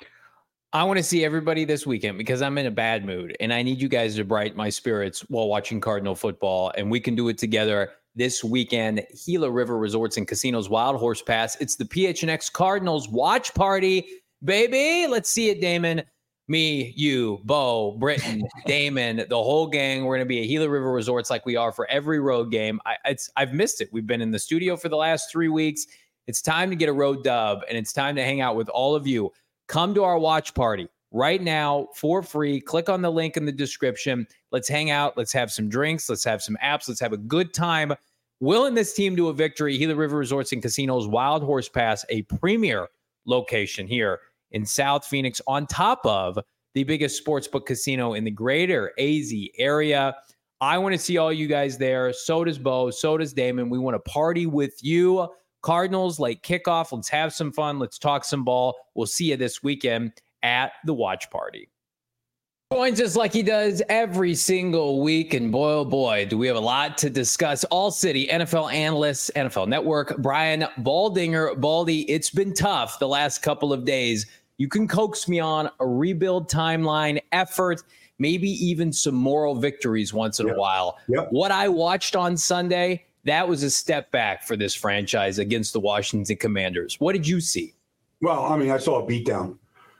I want to see everybody this weekend because I'm in a bad mood and I need you guys to brighten my spirits while watching Cardinal football, and we can do it together this weekend. Gila River Resorts and Casinos Wild Horse Pass. It's the P H N X Cardinals watch party, baby. Let's see it, Damon. Me, you, Bo, Britton, Damon, the whole gang. We're going to be at Gila River Resorts like we are for every road game. I, it's, I've missed it. We've been in the studio for the last three weeks. It's time to get a road dub, and it's time to hang out with all of you. Come to our watch party right now for free. Click on the link in the description. Let's hang out. Let's have some drinks. Let's have some apps. Let's have a good time. Willing this team to a victory. Gila River Resorts and Casinos Wild Horse Pass, a premier location here in South Phoenix, on top of the biggest sportsbook casino in the greater A Z area. I want to see all you guys there. So does Bo. So does Damon. We want to party with you. Cardinals late kickoff. Let's have some fun. Let's talk some ball. We'll see you this weekend at the watch party. Joins us like he does every single week, and boy, oh boy, do we have a lot to discuss. All City N F L analyst, N F L Network, Brian Baldinger. Baldy, it's been tough the last couple of days. You can coax me on a rebuild timeline effort, maybe even some moral victories once in yep. a while. Yep. What I watched on Sunday, that was a step back for this franchise against the Washington Commanders. What did you see? Well, I mean, I saw a beatdown.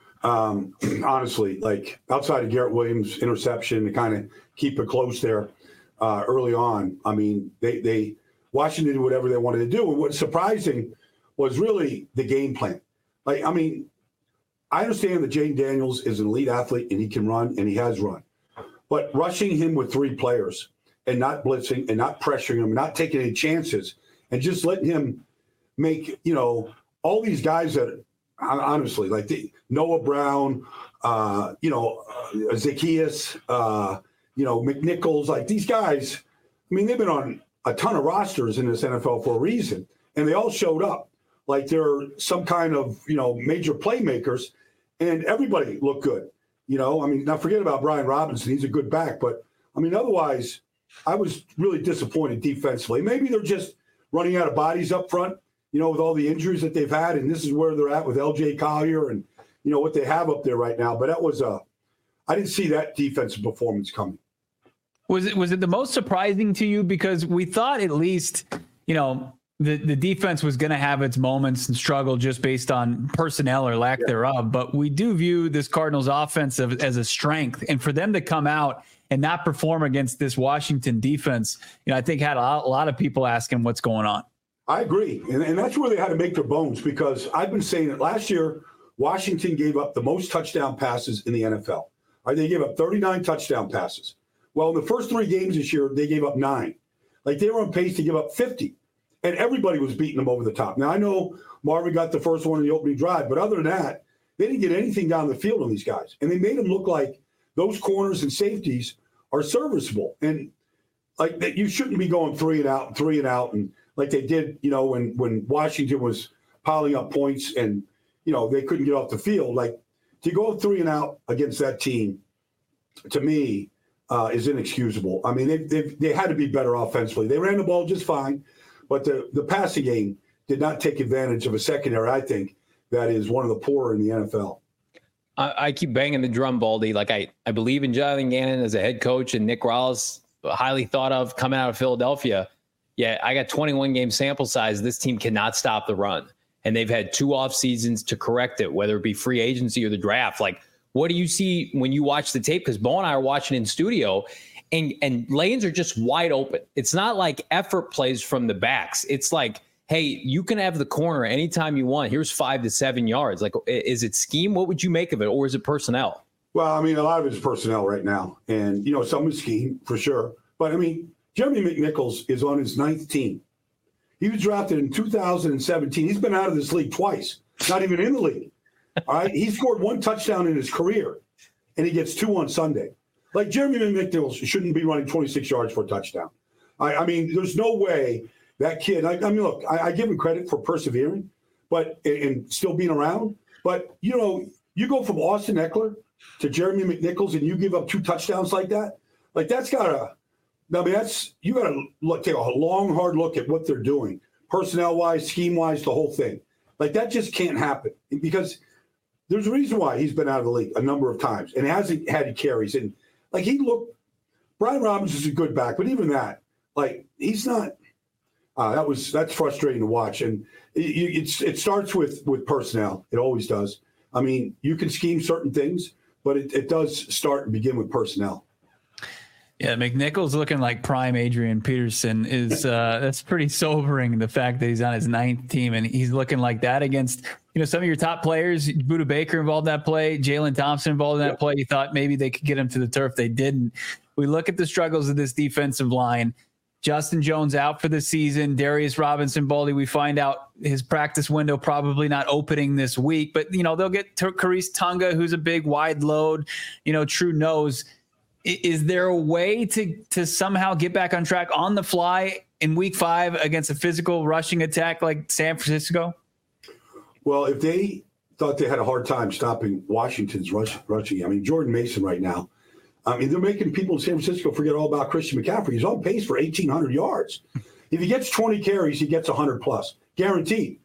Um, honestly, like outside of Garrett Williams' interception to kind of keep it close there uh, early on. I mean, they, they Washington did whatever they wanted to do. And what's surprising was really the game plan. Like, I mean, I understand that Jaden Daniels is an elite athlete and he can run and he has run, but rushing him with three players and not blitzing and not pressuring him, not taking any chances and just letting him make, you know, all these guys that honestly, like the, Noah Brown, uh, you know, uh, Zacchaeus, uh, you know, McNichols, like these guys, I mean, they've been on a ton of rosters in this N F L for a reason, and they all showed up like they're some kind of, you know, major playmakers, and everybody looked good. You know, I mean, now forget about Brian Robinson. He's a good back, but, I mean, otherwise, I was really disappointed defensively. Maybe they're just running out of bodies up front, you know, with all the injuries that they've had, and this is where they're at with L J Collier and, you know, what they have up there right now. But that was a, I didn't see that defensive performance coming. Was it, was it the most surprising to you? Because we thought at least, you know, the, the defense was going to have its moments and struggle just based on personnel or lack yeah. thereof. But we do view this Cardinals offense as a strength, and for them to come out and not perform against this Washington defense, you know, I think had a lot, a lot of people asking what's going on. I agree. And, and that's where they had to make their bones, because I've been saying it last year. Washington gave up the most touchdown passes in the N F L. Right, they gave up thirty-nine touchdown passes. Well, in the first three games this year, they gave up nine. Like they were on pace to give up fifty. And everybody was beating them over the top. Now, I know Marvin got the first one in the opening drive, but other than that, they didn't get anything down the field on these guys. And they made them look like those corners and safeties are serviceable. And like that, you shouldn't be going three and out, three and out, and like they did, you know, when when Washington was piling up points and, you know, they couldn't get off the field. Like to go three and out against that team, to me, uh, is inexcusable. I mean, they they they had to be better offensively. They ran the ball just fine, but the the passing game did not take advantage of a secondary, I think, that is one of the poorer in the N F L. I, I keep banging the drum, Baldy. Like I, I believe in Jonathan Gannon as a head coach and Nick Rawls, highly thought of coming out of Philadelphia. Yeah, I got twenty-one game sample size. This team cannot stop the run. And they've had two off seasons to correct it, whether it be free agency or the draft. Like, what do you see when you watch the tape? Because Bo and I are watching in studio, and, and lanes are just wide open. It's not like effort plays from the backs. It's like, hey, you can have the corner anytime you want. Here's five to seven yards. Like, is it scheme? What would you make of it? Or is it personnel? Well, I mean, a lot of it is personnel right now. And, you know, some is scheme for sure. But, I mean, Jeremy McNichols is on his ninth team. He was drafted in two thousand seventeen. He's been out of this league twice, not even in the league. All right. He scored one touchdown in his career, and he gets two on Sunday. Like Jeremy McNichols shouldn't be running twenty-six yards for a touchdown. I, I mean, there's no way that kid. I, I mean, look, I, I give him credit for persevering, but and, and still being around. But you know, you go from Austin Eckler to Jeremy McNichols, and you give up two touchdowns like that. Like that's gotta. I mean, that's you got to look, take a long, hard look at what they're doing, personnel-wise, scheme-wise, the whole thing. Like that just can't happen because there's a reason why he's been out of the league a number of times and hasn't had carries. And like he looked, Brian Robinson's a good back, but even that, like he's not. Uh, that was that's frustrating to watch, and it, it's it starts with with personnel. It always does. I mean, you can scheme certain things, but it, it does start and begin with personnel. Yeah, McNichols looking like prime Adrian Peterson is uh, that's pretty sobering. The fact that he's on his ninth team and he's looking like that against, you know, some of your top players. Budda Baker involved in that play, Jalen Thompson involved in that play. You thought maybe they could get him to the turf. They didn't. We look at the struggles of this defensive line. Justin Jones out for the season. Darius Robinson, Baldy, we find out his practice window probably not opening this week. But, you know, they'll get Karis Tunga, who's a big wide load, you know, true nose. Is there a way to to somehow get back on track on the fly in week five against a physical rushing attack like San Francisco? Well, if they thought they had a hard time stopping Washington's rush, rushing, I mean, Jordan Mason right now I mean, they're making people in San Francisco forget all about Christian McCaffrey. He's on pace for eighteen hundred yards. If he gets twenty carries, he gets one hundred plus, guaranteed.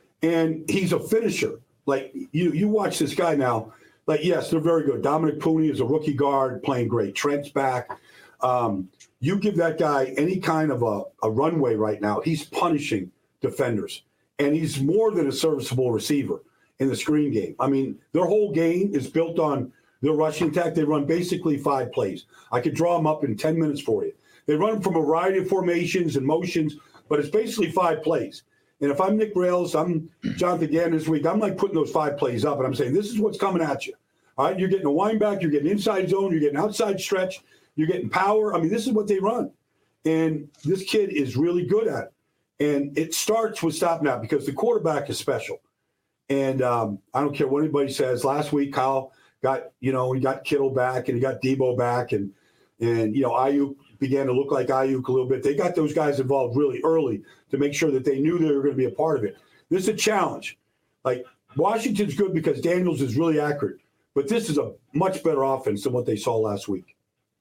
And he's a finisher. Like, you you watch this guy now. Like, yes, they're very good. Dominic Pooney is a rookie guard playing great. Trent's back. Um, you give that guy any kind of a, a runway right now, he's punishing defenders. And he's more than a serviceable receiver in the screen game. I mean, their whole game is built on their rushing attack. They run basically five plays. I could draw them up in ten minutes for you. They run from a variety of formations and motions, but it's basically five plays. And if I'm Nick Rails, I'm Jonathan Gannon this week, I'm like putting those five plays up, and I'm saying, this is what's coming at you. All right, you're getting a wind back, you're getting inside zone, you're getting outside stretch, you're getting power. I mean, this is what they run. And this kid is really good at it. And it starts with stopping out because the quarterback is special. And um, I don't care what anybody says. Last week, Kyle got, you know, he got Kittle back and he got Debo back. And, and you know, Ayuk began to look like Ayuk a little bit. They got those guys involved really early to make sure that they knew they were going to be a part of it. This is a challenge. Like, Washington's good because Daniels is really accurate. But this is a much better offense than what they saw last week.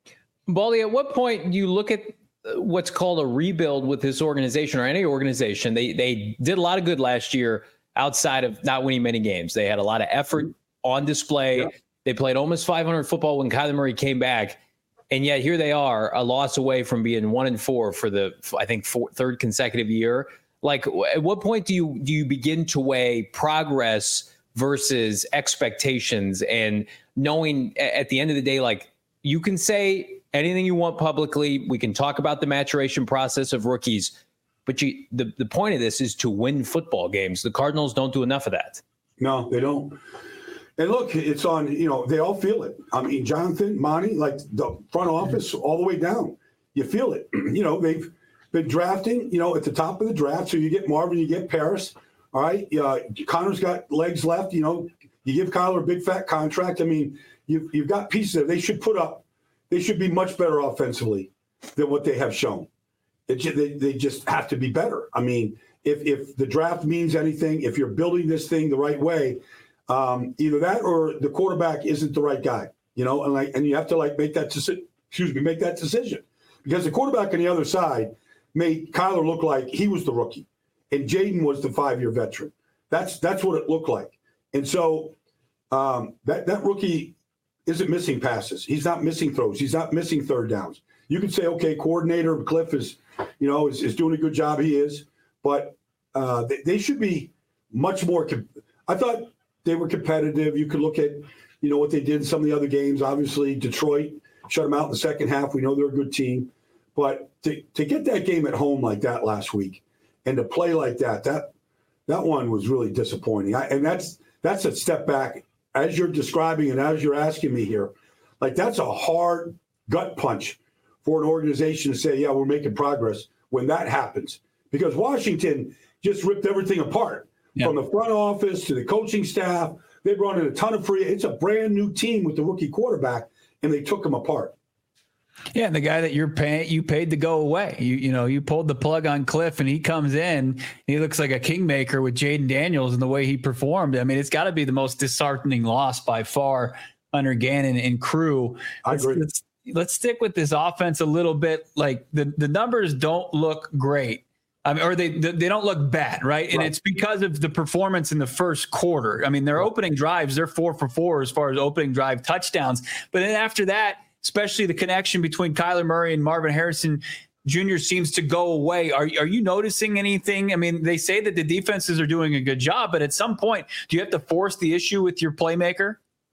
Baldy, at what point do you look at what's called a rebuild with this organization or any organization? They they did a lot of good last year outside of not winning many games. They had a lot of effort on display. Yeah. They played almost five hundred football when Kyler Murray came back. And yet here they are, a loss away from being one and four for the, I think, four, third consecutive year. Like, at what point do you do you begin to weigh progress versus expectations and knowing at the end of the day, like, you can say anything you want publicly. We can talk about the maturation process of rookies, but you, the, the point of this is to win football games. The Cardinals don't do enough of that. No, they don't. And look, it's on, you know, they all feel it. I mean, Jonathan, Monty, like the front office all the way down, you feel it. You know, they've been drafting, you know, at the top of the draft. So you get Marvin, you get Paris. All right. Uh, Connor's got legs left. You know, you give Kyler a big fat contract. I mean, you've, you've got pieces there. They should put up, they should be much better offensively than what they have shown. It, they, they just have to be better. I mean, if, if the draft means anything, if you're building this thing the right way, um, either that or the quarterback isn't the right guy, you know, and like, and you have to like make that decision, excuse me, make that decision, because the quarterback on the other side made Kyler look like he was the rookie and Jaden was the five-year veteran. That's, that's what it looked like. And so um, that, that rookie isn't missing passes. He's not missing throws. He's not missing third downs. You can say, okay, coordinator Cliff is, you know, is, is doing a good job. He is, but uh, they, they should be much more. Com- I thought they were competitive. You could look at, you know, what they did in some of the other games. Obviously, Detroit shut them out in the second half. We know they're a good team, but to, to get that game at home like that last week and to play like that, that that one was really disappointing. I, and that's that's a step back, as you're describing and as you're asking me here. Like, that's a hard gut punch for an organization to say, yeah, we're making progress when that happens, because Washington just ripped everything apart. Yeah. From the front office to the coaching staff. They brought in a ton of free. It's a brand new team with the rookie quarterback, and they took them apart. Yeah, and the guy that you're paying, you paid to go away. You you know, you pulled the plug on Cliff, and he comes in. He looks like a kingmaker with Jaden Daniels and the way he performed. I mean, it's got to be the most disheartening loss by far under Gannon and crew. I let's, agree. Let's, let's stick with this offense a little bit. Like, the, the numbers don't look great. I mean, or they they don't look bad, right? And right. It's because of the performance in the first quarter. I mean, their opening drives, they're four for four as far as opening drive touchdowns. But then after that, especially the connection between Kyler Murray and Marvin Harrison Junior seems to go away. Are, are you noticing anything? I mean, they say that the defenses are doing a good job, but at some point, do you have to force the issue with your playmaker?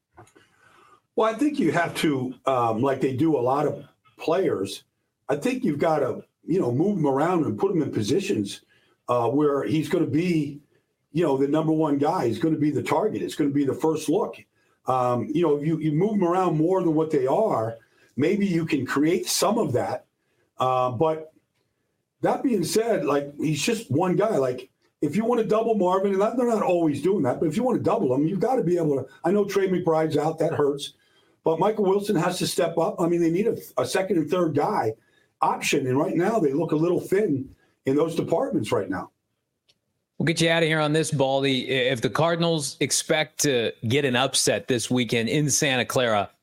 Well, I think you have to, um, like they do a lot of players, I think you've got to, you know, move him around and put him in positions uh, where he's going to be, you know, the number one guy. He's going to be the target. It's going to be the first look. Um, you know, you, you move them around more than what they are. Maybe you can create some of that. Uh, but that being said, like, he's just one guy. Like, if you want to double Marvin, and they're not always doing that, but if you want to double him, you've got to be able to. I know Trey McBride's out. That hurts. But Michael Wilson has to step up. I mean, they need a, a second and third guy option, and right now they look a little thin in those departments right now. We'll get you out of here on this, Baldy. If the Cardinals expect to get an upset this weekend in Santa Clara,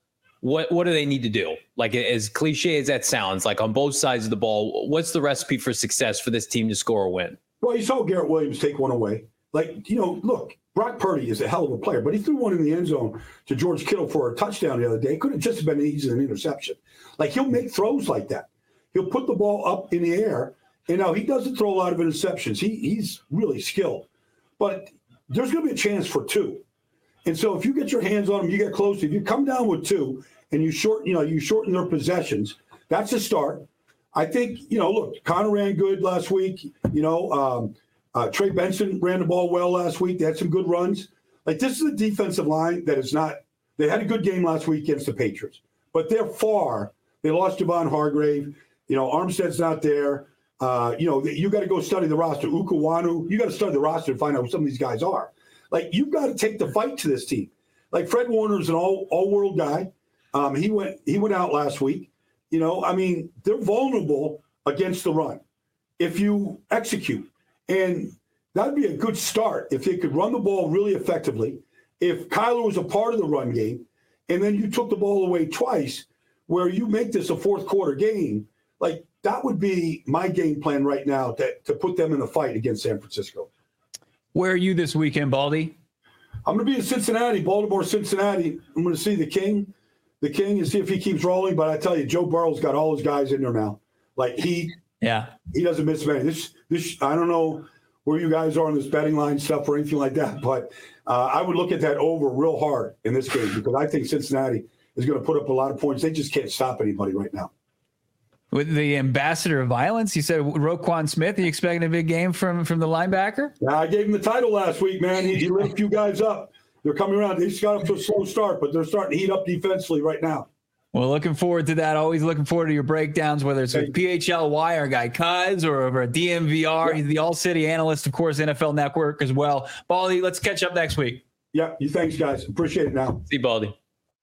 what what do they need to do? Like, as cliche as that sounds, like on both sides of the ball, what's the recipe for success for this team to score a win? Well, you saw Garrett Williams take one away. Like, you know, look, Brock Purdy is a hell of a player, but he threw one in the end zone to George Kittle for a touchdown the other day. It could have just been easy an interception. Like, he'll make throws like that. He'll put the ball up in the air. And now he doesn't throw a lot of interceptions. He he's really skilled. But there's going to be a chance for two. And so if you get your hands on him, you get close. If you come down with two and you shorten, you know, you shorten their possessions, that's a start. I think, you know, look, Connor ran good last week. You know, um, uh, Trey Benson ran the ball well last week. They had some good runs. Like, this is a defensive line that is not – they had a good game last week against the Patriots. But they're far. They lost Javon Hargrave. You know, Armstead's not there. Uh, you know, you got to go study the roster. Ukawanu, you got to study the roster and find out who some of these guys are. Like, you've got to take the fight to this team. Like, Fred Warner's an all all world guy. Um, he went he went out last week. You know, I mean, they're vulnerable against the run if you execute. And that'd be a good start if they could run the ball really effectively. If Kyler was a part of the run game, and then you took the ball away twice, where you make this a fourth quarter game, like, that would be my game plan right now to, to put them in the fight against San Francisco. Where are you this weekend, Baldy? I'm going to be in Cincinnati, Baltimore, Cincinnati. I'm going to see the King, the King, and see if he keeps rolling. But I tell you, Joe Burrow's got all his guys in there now. Like, he, yeah, he doesn't miss many. This, this, I don't know where you guys are on this betting line stuff or anything like that, but uh, I would look at that over real hard in this game because I think Cincinnati is going to put up a lot of points. They just can't stop anybody right now. With the ambassador of violence, you said Roquan Smith. Are you expecting a big game from, from the linebacker? Yeah, I gave him the title last week, man. He, he lit a few guys up. They're coming around. They just got up to a slow start, but they're starting to heat up defensively right now. Well, looking forward to that. Always looking forward to your breakdowns, whether it's with P H L Y, our guy Cuz, or over at D M V R. Yeah. He's the All-City analyst, of course, N F L Network as well. Baldy, let's catch up next week. Yeah, you thanks, guys. Appreciate it now. See you, Baldy.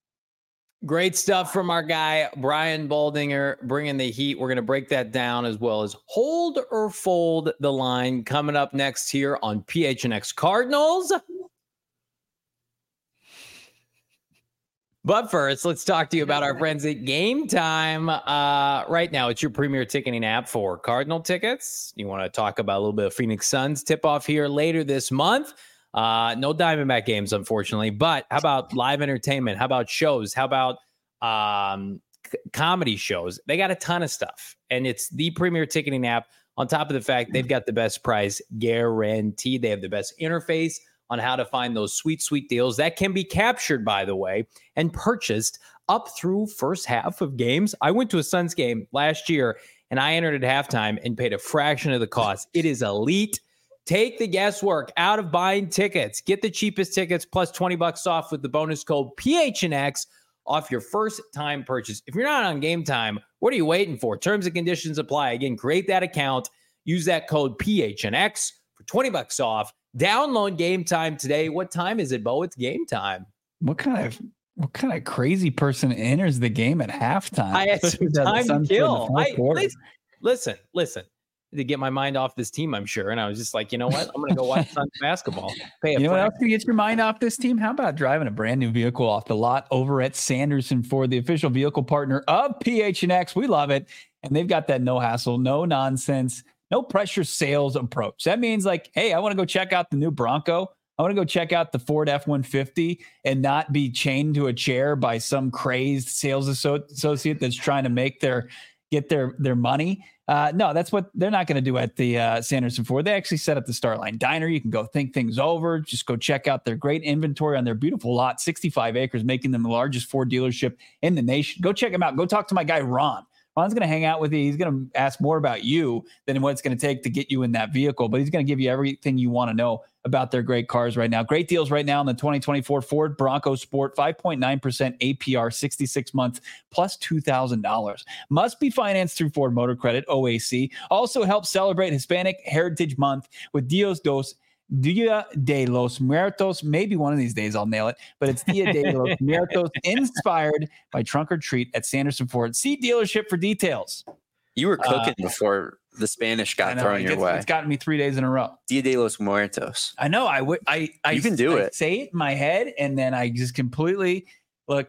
Great stuff from our guy, Brian Baldinger, bringing the heat. We're going to break that down as well as hold or fold the line coming up next here on P H N X Cardinals. But first, let's talk to you about our friends at Game Time. Uh, right now, it's your premier ticketing app for Cardinal tickets. You want to talk about a little bit of Phoenix Suns tip-off here later this month. Uh, no Diamondback games, unfortunately. But how about live entertainment? How about shows? How about um, c- comedy shows? They got a ton of stuff. And it's the premier ticketing app. On top of the fact they've got the best price guaranteed. They have the best interface on how to find those sweet, sweet deals that can be captured, by the way, and purchased up through first half of games. I went to a Suns game last year, and I entered at halftime and paid a fraction of the cost. It is elite. Take the guesswork out of buying tickets. Get the cheapest tickets plus twenty bucks off with the bonus code P H N X off your first time purchase. If you're not on Game Time, what are you waiting for? Terms and conditions apply. Again, create that account. Use that code P H N X for twenty bucks off. Download Game Time today. What time is it, Bo? It's game time. What kind of what kind of crazy person enters the game at halftime? I had some time to kill. I, listen, listen, listen. To get my mind off this team, I'm sure. And I was just like, you know what? I'm going to go watch Suns basketball. Pay a you know flag. what else can get your mind off this team? How about driving a brand new vehicle off the lot over at Sanderson Ford, the official vehicle partner of P H N X? We love it. And they've got that no hassle, no nonsense, no pressure sales approach. That means like, hey, I want to go check out the new Bronco. I want to go check out the Ford F one fifty and not be chained to a chair by some crazed sales associate that's trying to make their get their their money. Uh, no, that's what they're not going to do at the uh, Sanderson Ford. They actually set up the Starline Diner. You can go think things over. Just go check out their great inventory on their beautiful lot, sixty-five acres, making them the largest Ford dealership in the nation. Go check them out. Go talk to my guy, Ron. Ron's going to hang out with you. He's going to ask more about you than what it's going to take to get you in that vehicle, but he's going to give you everything you want to know about their great cars right now. Great deals right now on the twenty twenty-four Ford Bronco Sport, five point nine percent A P R, sixty-six months, plus two thousand dollars. Must be financed through Ford Motor Credit, O A C. Also helps celebrate Hispanic Heritage Month with Dios Dos Dia de los Muertos. Maybe one of these days I'll nail it, but it's Dia de los Muertos, inspired by Trunk or Treat at Sanderson Ford. See dealership for details. You were cooking Uh, before the Spanish got know, thrown your it's, way. It's gotten me three days in a row. Dia de los Muertos. I know. I would. I. I You can do I it. Say it in my head, and then I just completely look like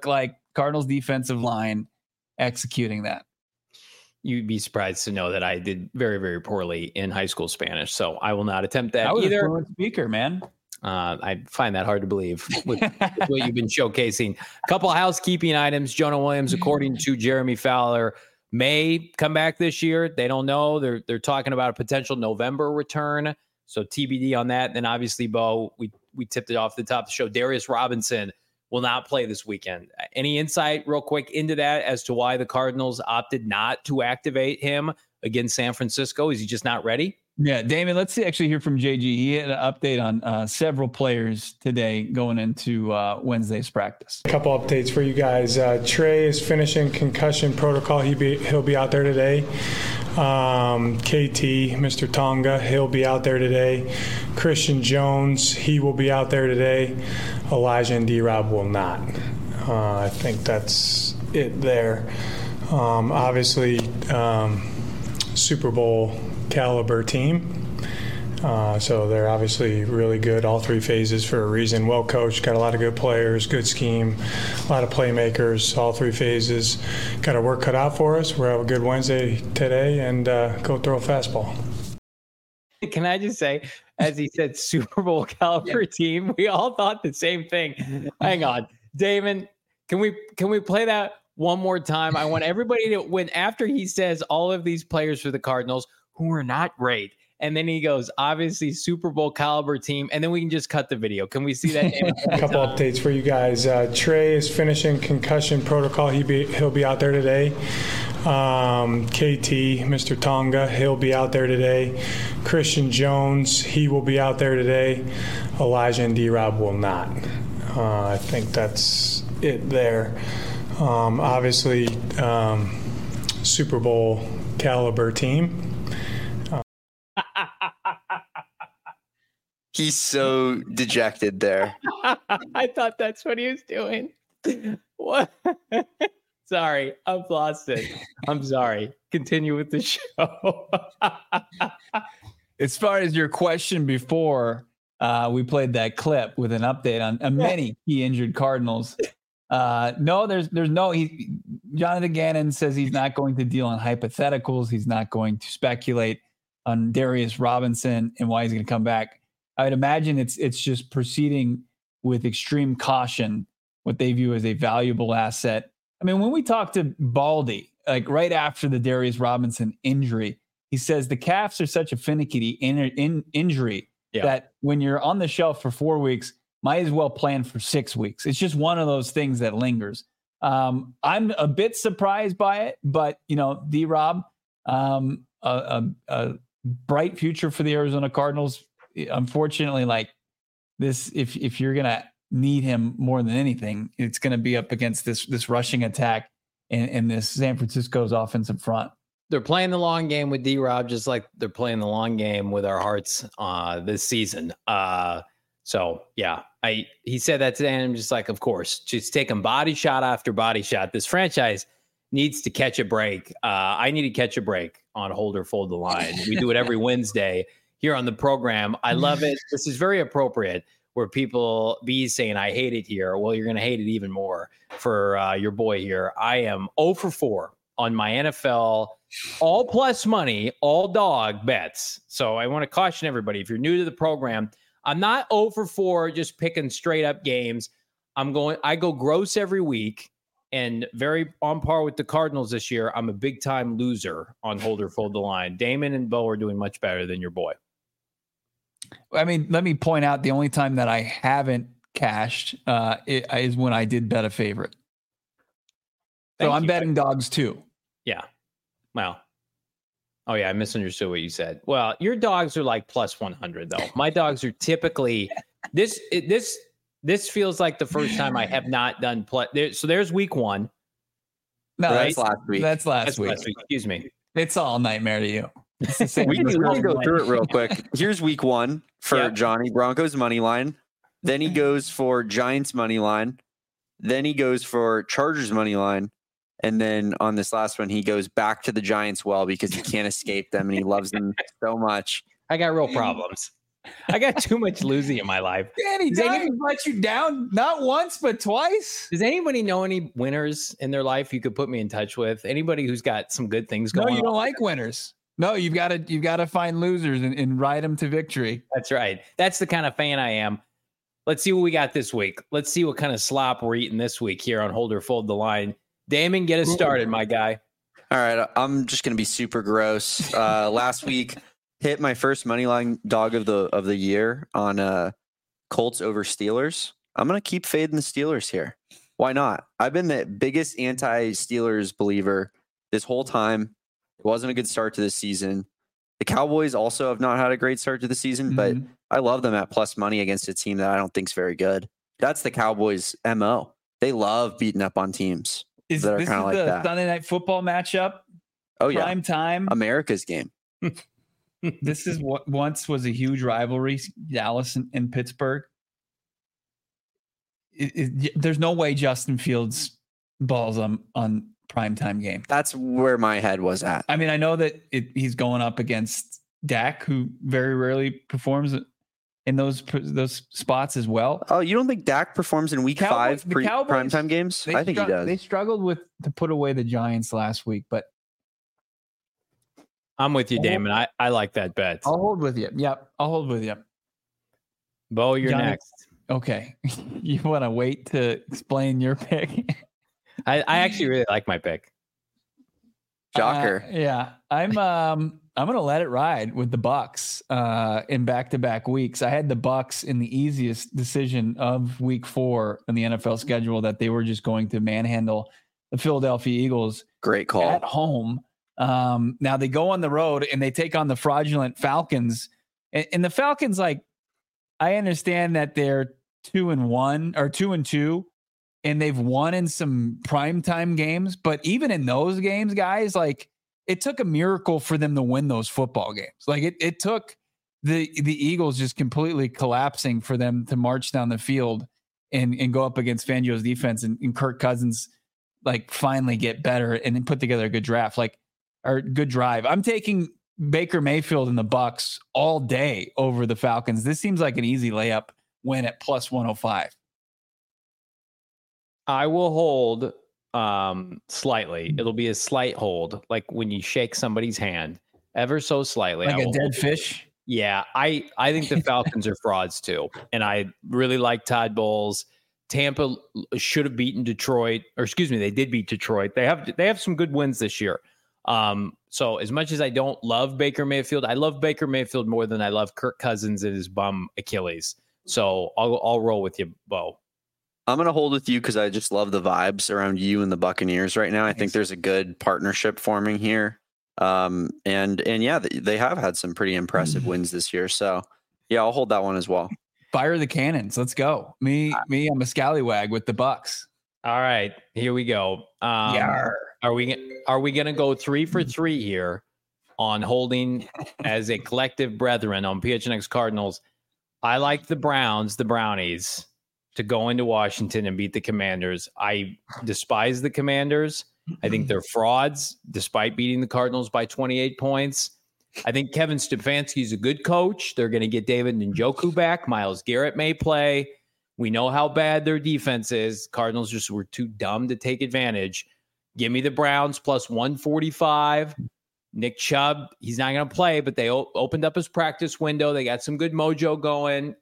Cardinals defensive line executing that? You'd be surprised to know that I did very, very poorly in high school Spanish, so I will not attempt that I was either. a fluent speaker, man. Uh, I find that hard to believe with, with what you've been showcasing. A couple of housekeeping items. Jonah Williams, according to Jeremy Fowler, may come back this year. They don't know. They're they're talking about a potential November return. So T B D on that. And then obviously, Bo, we we tipped it off the top of the show. Darius Robinson will not play this weekend. Any insight real quick into that as to why the Cardinals opted not to activate him against San Francisco? Is he just not ready? Yeah, Damon, let's see, actually hear from J G. He had an update on uh, several players today going into uh, Wednesday's practice. A couple updates for you guys. Uh, Trey is finishing concussion protocol. He be, he'll be out there today. Um, K T, Mister Tonga, he'll be out there today. Christian Jones, he will be out there today. Elijah and D-Rob will not. Uh, I think that's it there. Um, obviously, um, Super Bowl caliber team. Uh, so they're obviously really good, all three phases for a reason. Well coached, got a lot of good players, good scheme, a lot of playmakers, all three phases. Got our work cut out for us. We'll have a good Wednesday today and uh, go throw a fastball. Can I just say, as he said, Super Bowl caliber team, we all thought the same thing. Hang on, Damon, can we can we play that one more time? I want everybody to, when after he says all of these players for the Cardinals who are not great, and then he goes, obviously Super Bowl caliber team, and then we can just cut the video. Can we see that? A couple updates for you guys. Uh, Trey is finishing concussion protocol. He be, he'll be out there today. Um, K T, Mister Tonga, he'll be out there today. Christian Jones, he will be out there today. Elijah and D-Rob will not. Uh, I think that's it there. Um, obviously, um, Super Bowl caliber team. He's so dejected there. I thought that's what he was doing. What? Sorry, I've lost it. I'm sorry. Continue with the show. As far as your question before, uh, we played that clip with an update on uh, many key injured Cardinals. Uh, no, there's there's no. He, Jonathan Gannon says he's not going to deal on hypotheticals. He's not going to speculate on Darius Robinson and why he's going to come back. I would imagine it's it's just proceeding with extreme caution, what they view as a valuable asset. I mean, when we talked to Baldy, like right after the Darius Robinson injury, he says the calves are such a finicky in, in, injury yeah. that when you're on the shelf for four weeks, might as well plan for six weeks. It's just one of those things that lingers. Um, I'm a bit surprised by it, but, you know, D-Rob, um, a, a, a bright future for the Arizona Cardinals. Unfortunately, like this, if if you're going to need him more than anything, it's going to be up against this this rushing attack and, and this San Francisco's offensive front. They're playing the long game with D-Rob, just like they're playing the long game with our hearts uh, this season. Uh, so, yeah, I he said that today, and I'm just like, of course, just taking body shot after body shot. This franchise needs to catch a break. Uh, I need to catch a break on Hold or Fold the Line. We do it every Wednesday here on the program. I love it. This is very appropriate where people be saying, I hate it here. Well, you're going to hate it even more for uh, your boy here. I am zero for four on my N F L all plus money, all dog bets. So I want to caution everybody, if you're new to the program, I'm not zero for four just picking straight up games. I'm going, I go gross every week and very on par with the Cardinals this year. I'm a big time loser on Hold or Fold the Line. Damon and Bo are doing much better than your boy. I mean, let me point out the only time that I haven't cashed uh, is when I did bet a favorite. So Thank I'm you. betting dogs too. Yeah. Well, oh yeah, I misunderstood what you said. Well, your dogs are like plus one hundred though. My dogs are typically this, this, this feels like the first time I have not done plus. There, so there's week one. No, right? that's last week. That's last that's week. Last week. Excuse me. It's all nightmare to you. we can, we can go through it real quick. Here's week one for yep. Johnny. Broncos money line. Then he goes for Giants money line. Then he goes for Chargers money line. And then on this last one, he goes back to the Giants well because he can't escape them and he loves them so much. I got real problems. I got too much losing in my life. Danny Does Dimes anybody- let you down not once but twice. Does anybody know any winners in their life you could put me in touch with? Anybody who's got some good things No, going on? you don't like winners. No, you've got to you've got to find losers and, and ride them to victory. That's right. That's the kind of fan I am. Let's see what we got this week. Let's see what kind of slop we're eating this week here on Hold or Fold the Line. Damon, get us started, my guy. All right, I'm just going to be super gross. Uh, last week, hit my first money line dog of the of the year on uh, Colts over Steelers. I'm going to keep fading the Steelers here. Why not? I've been the biggest anti-Steelers believer this whole time. It wasn't a good start to the season. The Cowboys also have not had a great start to the season, mm-hmm. but I love them at plus money against a team that I don't think is very good. That's the Cowboys' M O. They love beating up on teams is, that are kind of like the that. Sunday Night Football matchup. Oh yeah, prime time. America's game. This is what once was a huge rivalry, Dallas and, and Pittsburgh. It, it, there's no way Justin Fields balls on on primetime game. That's where my head was at. I mean, I know that it, he's going up against Dak, who very rarely performs in those those spots as well. Oh, you don't think Dak performs in week Cowboys, five pre primetime games? I think str- he does. They struggled with to put away the Giants last week, but I'm with you, Damon. I, I like that bet. I'll hold with you. Yep, I'll hold with you. Bo, you're Johnny, next. Okay. You want to wait to explain your pick? I, I actually really like my pick. Shocker. Uh, yeah. I'm um I'm gonna let it ride with the Bucks uh in back-to-back weeks. I had the Bucks in the easiest decision of week four in the N F L schedule that they were just going to manhandle the Philadelphia Eagles. Great call. At home. Um, now they go on the road and they take on the fraudulent Falcons. And, and the Falcons, like, I understand that they're two and one or two and two, and they've won in some primetime games. But even in those games, guys, like, it took a miracle for them to win those football games. Like it, it took the the Eagles just completely collapsing for them to march down the field and, and go up against Fangio's defense and, and Kirk Cousins, like, finally get better and then put together a good draft. Like, or good drive. I'm taking Baker Mayfield and the Bucks all day over the Falcons. This seems like an easy layup win at plus one oh five. I will hold um, slightly. It'll be a slight hold, like when you shake somebody's hand ever so slightly. Like I a dead hold. fish? Yeah, I, I think the Falcons are frauds too. And I really like Todd Bowles. Tampa should have beaten Detroit, or excuse me, they did beat Detroit. They have they have some good wins this year. Um, so as much as I don't love Baker Mayfield, I love Baker Mayfield more than I love Kirk Cousins and his bum Achilles. So I'll I'll roll with you, Bo. I'm going to hold with you because I just love the vibes around you and the Buccaneers right now. I think there's a good partnership forming here. Um, and, and yeah, they, they have had some pretty impressive wins this year. So yeah, I'll hold that one as well. Fire the cannons. Let's go. Me, me, I'm a scallywag with the Bucks. All right, here we go. Um, Yarr. Are we are we going to go three for three here on holding as a collective brethren on P H N X Cardinals? I like the Browns, the Brownies, to go into Washington and beat the Commanders. I despise the Commanders. I think they're frauds, despite beating the Cardinals by twenty-eight points. I think Kevin Stefanski is a good coach. They're going to get David Njoku back. Myles Garrett may play. We know how bad their defense is. Cardinals just were too dumb to take advantage. Give me the Browns plus one forty-five. Nick Chubb, he's not going to play, but they o- opened up his practice window. They got some good mojo going.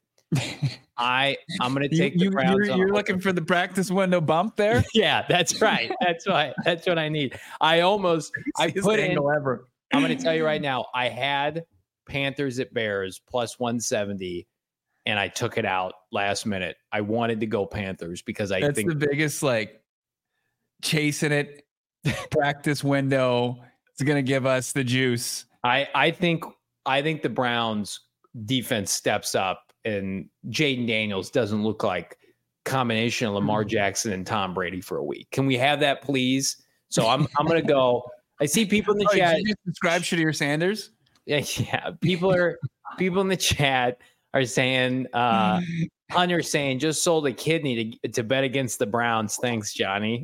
I, I'm going to take you, the Browns. You're, you're looking for the practice window bump there? Yeah, that's right. That's right. That's what I need. I almost, I put in, ever. I'm going to tell you right now, I had Panthers at Bears plus one seventy, and I took it out last minute. I wanted to go Panthers because I That's think the biggest, like, chasing it practice window. It's going to give us the juice. I, I think I think the Browns defense steps up, and Jaden Daniels doesn't look like combination of Lamar Jackson and Tom Brady for a week. Can we have that, please? So I'm I'm going to go. I see people in the Oh, chat. did you just describe Shadir Sanders? Yeah, yeah. People are people in the chat are saying uh Hunter saying just sold a kidney to to bet against the Browns. Thanks, Johnny.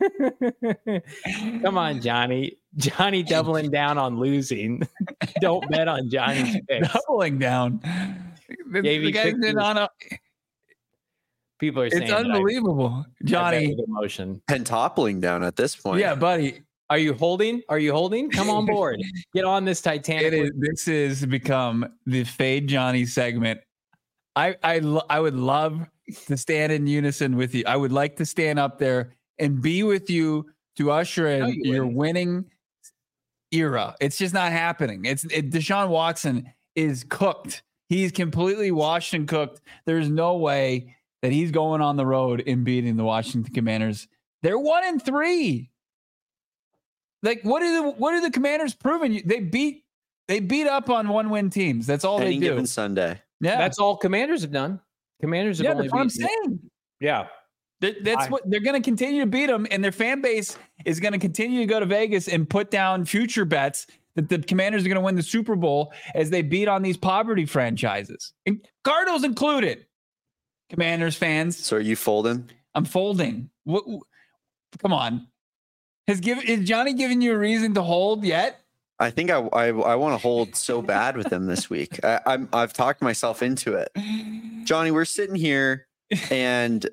Come on, Johnny. Johnny doubling down on losing. Don't bet on Johnny's picks. Doubling down. The, the guy's been on a, People are saying it's unbelievable, I, Johnny. Emotion pentoppling down at this point. Yeah, buddy. Are you holding? Are you holding? Come on board. Get on this Titanic. It is, this has become the Fade Johnny segment. I I lo- I would love to stand in unison with you. I would like to stand up there and be with you to usher in you your wouldn't. winning era. It's just not happening. It's it, Deshaun Watson is cooked. He's completely washed and cooked. There's no way that he's going on the road and beating the Washington Commanders. They're one and three. Like, what are the what are the Commanders proving? They beat they beat up on one win teams. That's all Any they do. given Sunday. Yeah, that's all Commanders have done. Commanders have yeah, only that's what I'm saying. Yeah, that, that's I, what they're going to continue to beat them, and their fan base is going to continue to go to Vegas and put down future bets that the Commanders are going to win the Super Bowl as they beat on these poverty franchises, and Cardinals included. Commanders fans. So are you folding? I'm folding. What? Come on. Has given is Johnny giving you a reason to hold yet? I think I I, I want to hold so bad with him this week. I, I'm I've talked myself into it. Johnny, we're sitting here, and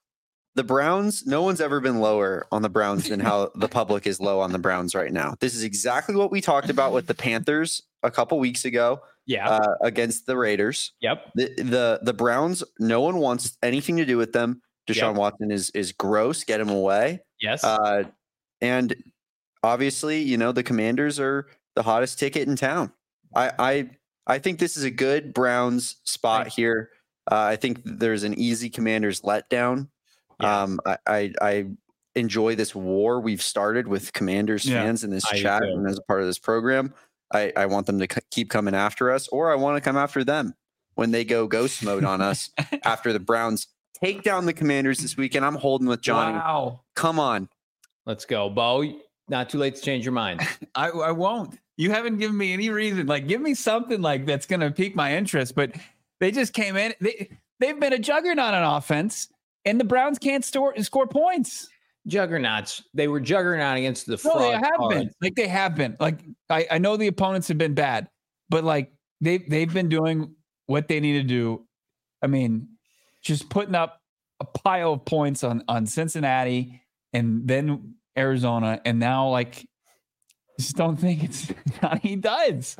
the Browns. No one's ever been lower on the Browns than how the public is low on the Browns right now. This is exactly what we talked about with the Panthers a couple weeks ago. Yeah, uh, against the Raiders. Yep. The, the the Browns. No one wants anything to do with them. Deshaun yep. Watson is is gross. Get him away. Yes. Uh, and obviously, you know, the Commanders are the hottest ticket in town. I I, I think this is a good Browns spot right. here. Uh, I think there's an easy Commanders letdown. Yeah. Um, I, I I enjoy this war we've started with Commanders yeah. fans in this I chat and as a part of this program. I, I want them to c- keep coming after us, or I want to come after them when they go ghost mode on us after the Browns take down the Commanders this weekend. I'm holding with Johnny. Wow. Come on. Let's go, Bo. Not too late to change your mind. I, I won't. You haven't given me any reason. Like, give me something like that's going to pique my interest. But they just came in. They, they've been a juggernaut on offense, and the Browns can't store, score points. Juggernauts. They were juggernaut against the fraud. No, they have cards. been. Like, they have been. Like, I, I know the opponents have been bad, but, like, they, they've been doing what they need to do. I mean, just putting up a pile of points on, on Cincinnati and then Arizona, and now like just don't think it's Johnny Duds.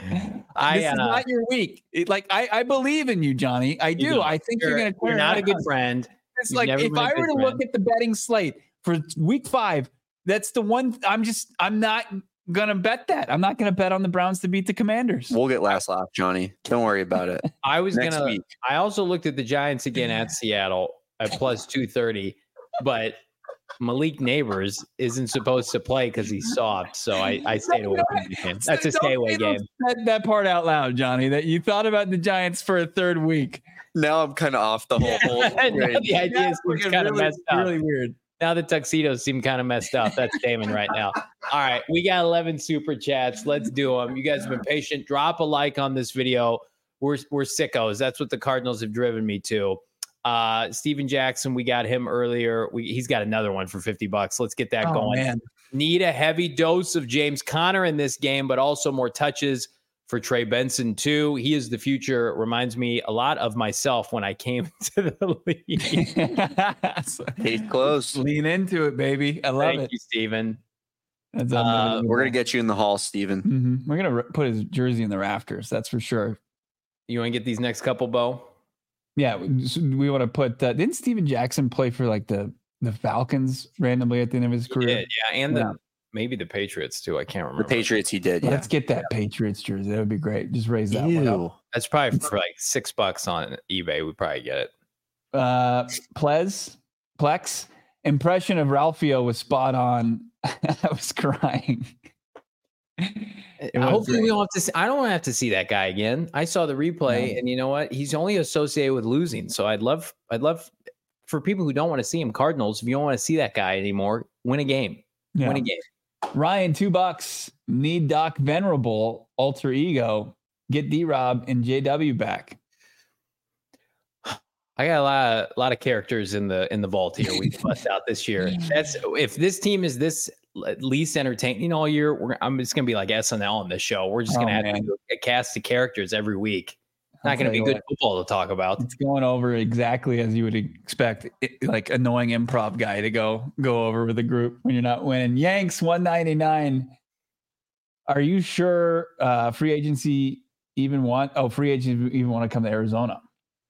I, this is uh, not your week. It, like I, I believe in you, Johnny. I do. You know, I think you're, you're going to. You're not a good friend. It's You've like if I were to friend. look at the betting slate for week five, that's the one. I'm just. I'm not going to bet that. I'm not going to bet on the Browns to beat the Commanders. We'll get last laugh, Johnny. Don't worry about it. I was going to. I also looked at the Giants again at Seattle at plus two thirty, but Malik Neighbors isn't supposed to play because he's soft, so I, I stayed away from the game. That's a stay away game. That, that part out loud, Johnny, that you thought about the Giants for a third week. Now I'm kind of off the whole whole The idea seems kind of really, messed up. Really weird. Now the tuxedos seem kind of messed up. That's Damon right now. All right, we got eleven super chats. Let's do them. You guys have been patient. Drop a like on this video. We're we're sickos. That's what the Cardinals have driven me to. Uh, Steven Jackson, we got him earlier. We, he's got another one for fifty bucks. Let's get that oh, going. Man. Need a heavy dose of James Conner in this game, but also more touches for Trey Benson too. He is the future. Reminds me a lot of myself when I came to the league. Case close. Lean into it, baby. I love Thank it. Thank you, Steven. That's uh, we're going to get you in the hall, Steven. Mm-hmm. We're going to put his jersey in the rafters. That's for sure. You want to get these next couple, Bo? Yeah, we want to put. Uh, didn't Steven Jackson play for like the the Falcons randomly at the end of his career? He did, yeah, and yeah. the maybe the Patriots too. I can't remember. The Patriots, he did. Yeah. Let's get that Patriots jersey. That would be great. Just raise that Ew. one up. That's probably for like six bucks on eBay. We probably get it. Uh, Plez, Plex impression of Ralphio was spot on. I was crying. Hopefully we don't have to see, I don't have to see that guy again. I saw the replay no. and you know what? He's only associated with losing. So I'd love, I'd love for people who don't want to see him, Cardinals, if you don't want to see that guy anymore, win a game, yeah. win a game. Ryan, two bucks, need Doc Venerable, alter ego, get D-Rob and J W back. I got a lot of, a lot of characters in the, in the vault here. We bust out this year. That's if this team is this least entertaining all year, we're, I'm just going to be like S N L on this show. We're just going to oh, have man. to do a cast of characters every week. Not going to be good what, football to talk about. It's going over exactly as you would expect, it, like annoying improv guy to go go over with a group when you're not winning. Yanks one ninety-nine. Are you sure uh, free agency even want? Oh, free agents even want to come to Arizona?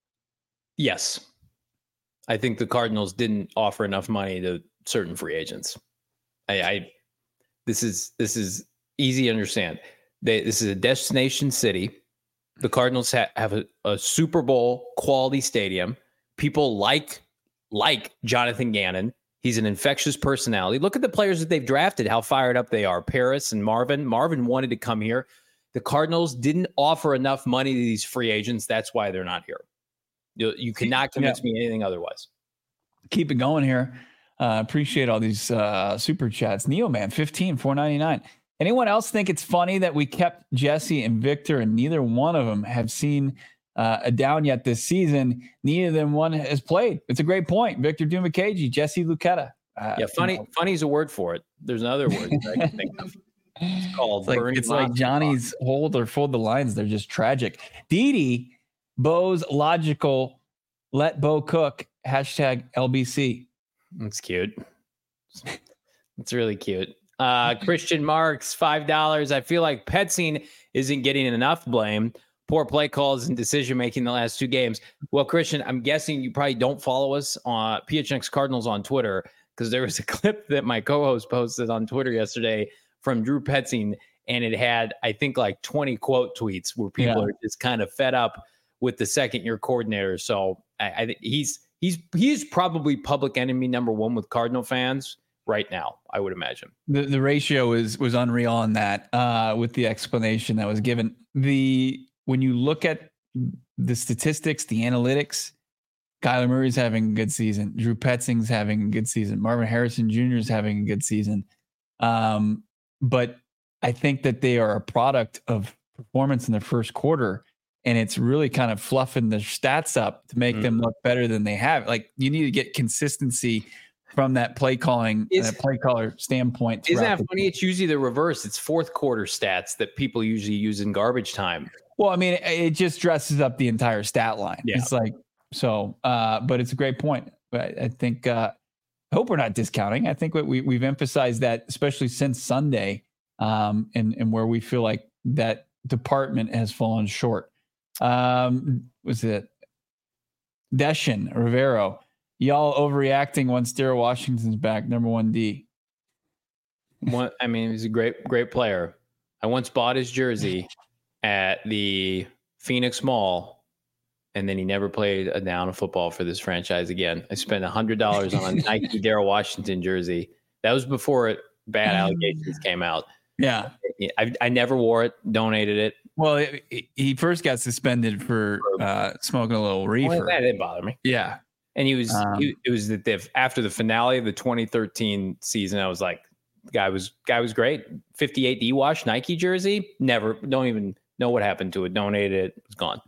Yes, I think the Cardinals didn't offer enough money to certain free agents. I, I this is this is easy to understand. They, this is a destination city. The Cardinals ha- have a, a Super Bowl quality stadium. People like like Jonathan Gannon. He's an infectious personality. Look at the players that they've drafted, how fired up they are. Paris and Marvin. Marvin wanted to come here. The Cardinals didn't offer enough money to these free agents. That's why they're not here. You, you cannot convince yeah. me anything otherwise. Keep it going here. Uh, appreciate all these uh, super chats. Neo Man, fifteen, four ninety-nine. Anyone else think it's funny that we kept Jesse and Victor and neither one of them have seen uh, a down yet this season? Neither of them one has played. It's a great point. Victor Dumakaji, Jesse Lucchetta. Uh, yeah, funny. You know. Funny is a word for it. There's another word that I can think of. It's called it's like, it's like Johnny's hold or fold the lines. They're just tragic. Didi, Bo's logical, let Bo cook, hashtag L B C. That's cute. It's really cute. Uh, Christian Marks, five dollars. I feel like Petzing isn't getting enough blame. Poor play calls and decision-making the last two games. Well, Christian, I'm guessing you probably don't follow us on P H N X Cardinals on Twitter because there was a clip that my co-host posted on Twitter yesterday from Drew Petzing, and it had, I think, like twenty quote tweets where people yeah. are just kind of fed up with the second-year coordinator. So I, I think he's he's he's probably public enemy number one with Cardinal fans right now, I would imagine. The the ratio is was unreal on that uh, with the explanation that was given. The when you look at the statistics, the analytics, Kyler Murray's having a good season. Drew Petzing's having a good season. Marvin Harrison Junior is having a good season. Um, but I think that they are a product of performance in the first quarter, and it's really kind of fluffing the stats up to make mm-hmm. them look better than they have. Like you need to get consistency from that play calling, is, that play caller standpoint. Isn't that funny? It's usually the reverse. It's fourth quarter stats that people usually use in garbage time. Well, I mean, it, it just dresses up the entire stat line. Yeah. It's like, so, uh, but it's a great point. But I think, uh, I hope we're not discounting. I think what we, we've emphasized that, especially since Sunday, um, and, and where we feel like that department has fallen short. Um, was it Deshin Rivero? Y'all overreacting once Darryl Washington's back, number one D. One, I mean, he's a great, great player. I once bought his jersey at the Phoenix Mall, and then he never played a down of football for this franchise again. I spent one hundred dollars on a Nike Darryl Washington jersey. That was before it, bad allegations came out. Yeah. I, I never wore it, donated it. Well, it, it, he first got suspended for uh, smoking a little reefer. Well, that didn't bother me. Yeah. And he was, um, he, it was that the, after the finale of the twenty thirteen season, I was like, guy was, guy was great. fifty-eight D-Wash Nike jersey. Never, don't even know what happened to it. Donated it. It was gone.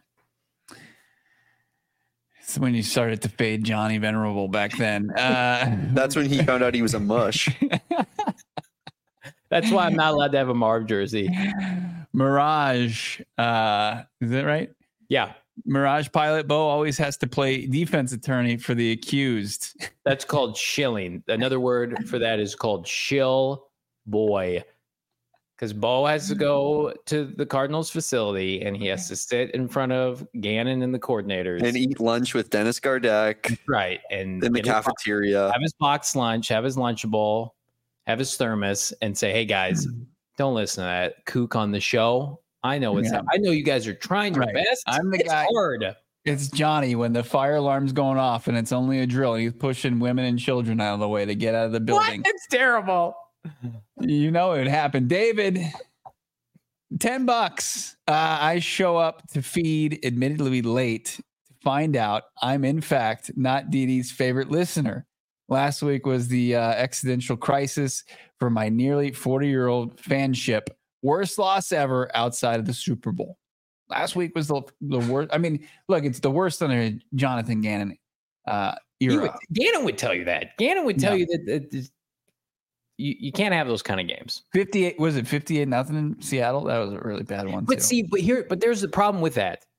It's when you started to fade Johnny Venerable back then. Uh, That's when he found out he was a mush. That's why I'm not allowed to have a Marv jersey. Mirage. Uh, is that right? Yeah. Mirage pilot Bo always has to play defense attorney for the accused. That's called shilling. Another word for that is called shill boy. Because Bo has to go to the Cardinals facility and he has to sit in front of Gannon and the coordinators and eat lunch with Dennis Gardeck. Right. And in the cafeteria. His, have his box lunch, have his Lunchable, have his thermos, and say, hey guys, don't listen to that kook on the show. I know it's yeah. I know you guys are trying your right. best. I'm the it's guy. Hard. It's Johnny when the fire alarm's going off and it's only a drill and he's pushing women and children out of the way to get out of the building. What? It's terrible. You know it happened. David, ten bucks. Uh, I show up to feed, admittedly late, to find out I'm in fact not Dee Dee's favorite listener. Last week was the uh, existential crisis for my nearly forty-year-old fanship. Worst loss ever outside of the Super Bowl. Last week was the the worst. I mean, look, it's the worst under Jonathan Gannon uh, era. Would, Gannon would tell you that. Gannon would tell no. you that, that, that you, you can't have those kind of games. fifty-eight was it fifty-eight nothing in Seattle? That was a really bad one. But too. see, but here, but there's the problem with that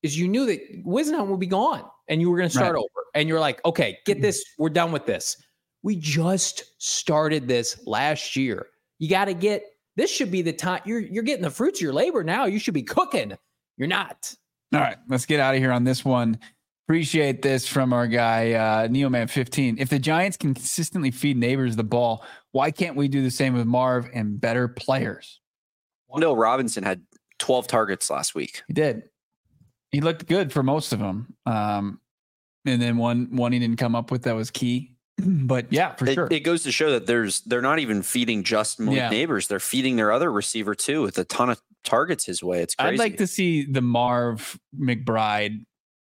is you knew that Wisnaham would be gone and you were going to start Right. over. And you're like, okay, get this. We're done with this. We just started this last year. You got to get, this should be the time. You're, you're getting the fruits of your labor now. You should be cooking. You're not. All right, let's get out of here on this one. Appreciate this from our guy, uh, Neoman fifteen. If the Giants can consistently feed Neighbors the ball, why can't we do the same with Marv and better players? Wando Robinson had twelve targets last week. He did. He looked good for most of them. Um, and then one one he didn't come up with that was key. But yeah, for it, sure. It goes to show that there's they're not even feeding just Malik Yeah. Neighbors. They're feeding their other receiver too with a ton of targets his way. It's crazy. I'd like to see the Marv McBride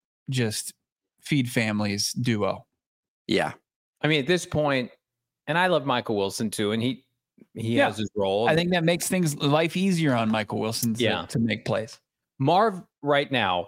just feed families duo. Yeah. I mean, at this point, and I love Michael Wilson too, and he he Yeah. has his role. I think that makes things life easier on Michael Wilson to, Yeah. to make plays. Marv right now,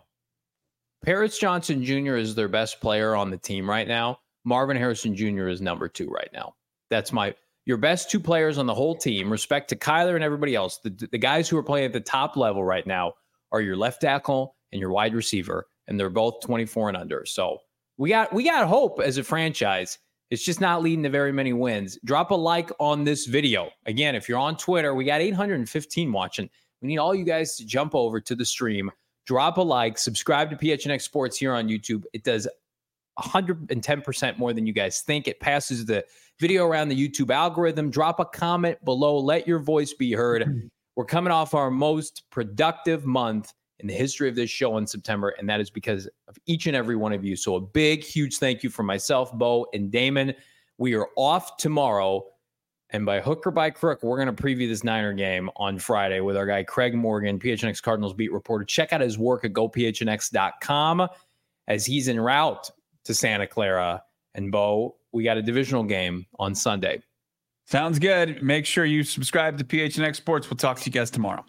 Paris Johnson Junior is their best player on the team right now. Marvin Harrison Junior is number two right now. That's my your best two players on the whole team. Respect to Kyler and everybody else. The, the guys who are playing at the top level right now are your left tackle and your wide receiver, and they're both twenty-four and under. So we got we got hope as a franchise. It's just not leading to very many wins. Drop a like on this video. Again, if you're on Twitter, we got eight hundred fifteen watching. We need all you guys to jump over to the stream, drop a like, subscribe to P H N X Sports here on YouTube. It does one hundred ten percent more than you guys think. It passes the video around the YouTube algorithm. Drop a comment below. Let your voice be heard. We're coming off our most productive month in the history of this show in September, and that is because of each and every one of you. So a big, huge thank you from myself, Bo, and Damon. We are off tomorrow, and by hook or by crook, we're going to preview this Niner game on Friday with our guy Craig Morgan, P H N X Cardinals beat reporter. Check out his work at go p h n x dot com as he's en route to Santa Clara. And Bo, we got a divisional game on Sunday. Sounds good. Make sure you subscribe to P H N X Sports. We'll talk to you guys tomorrow.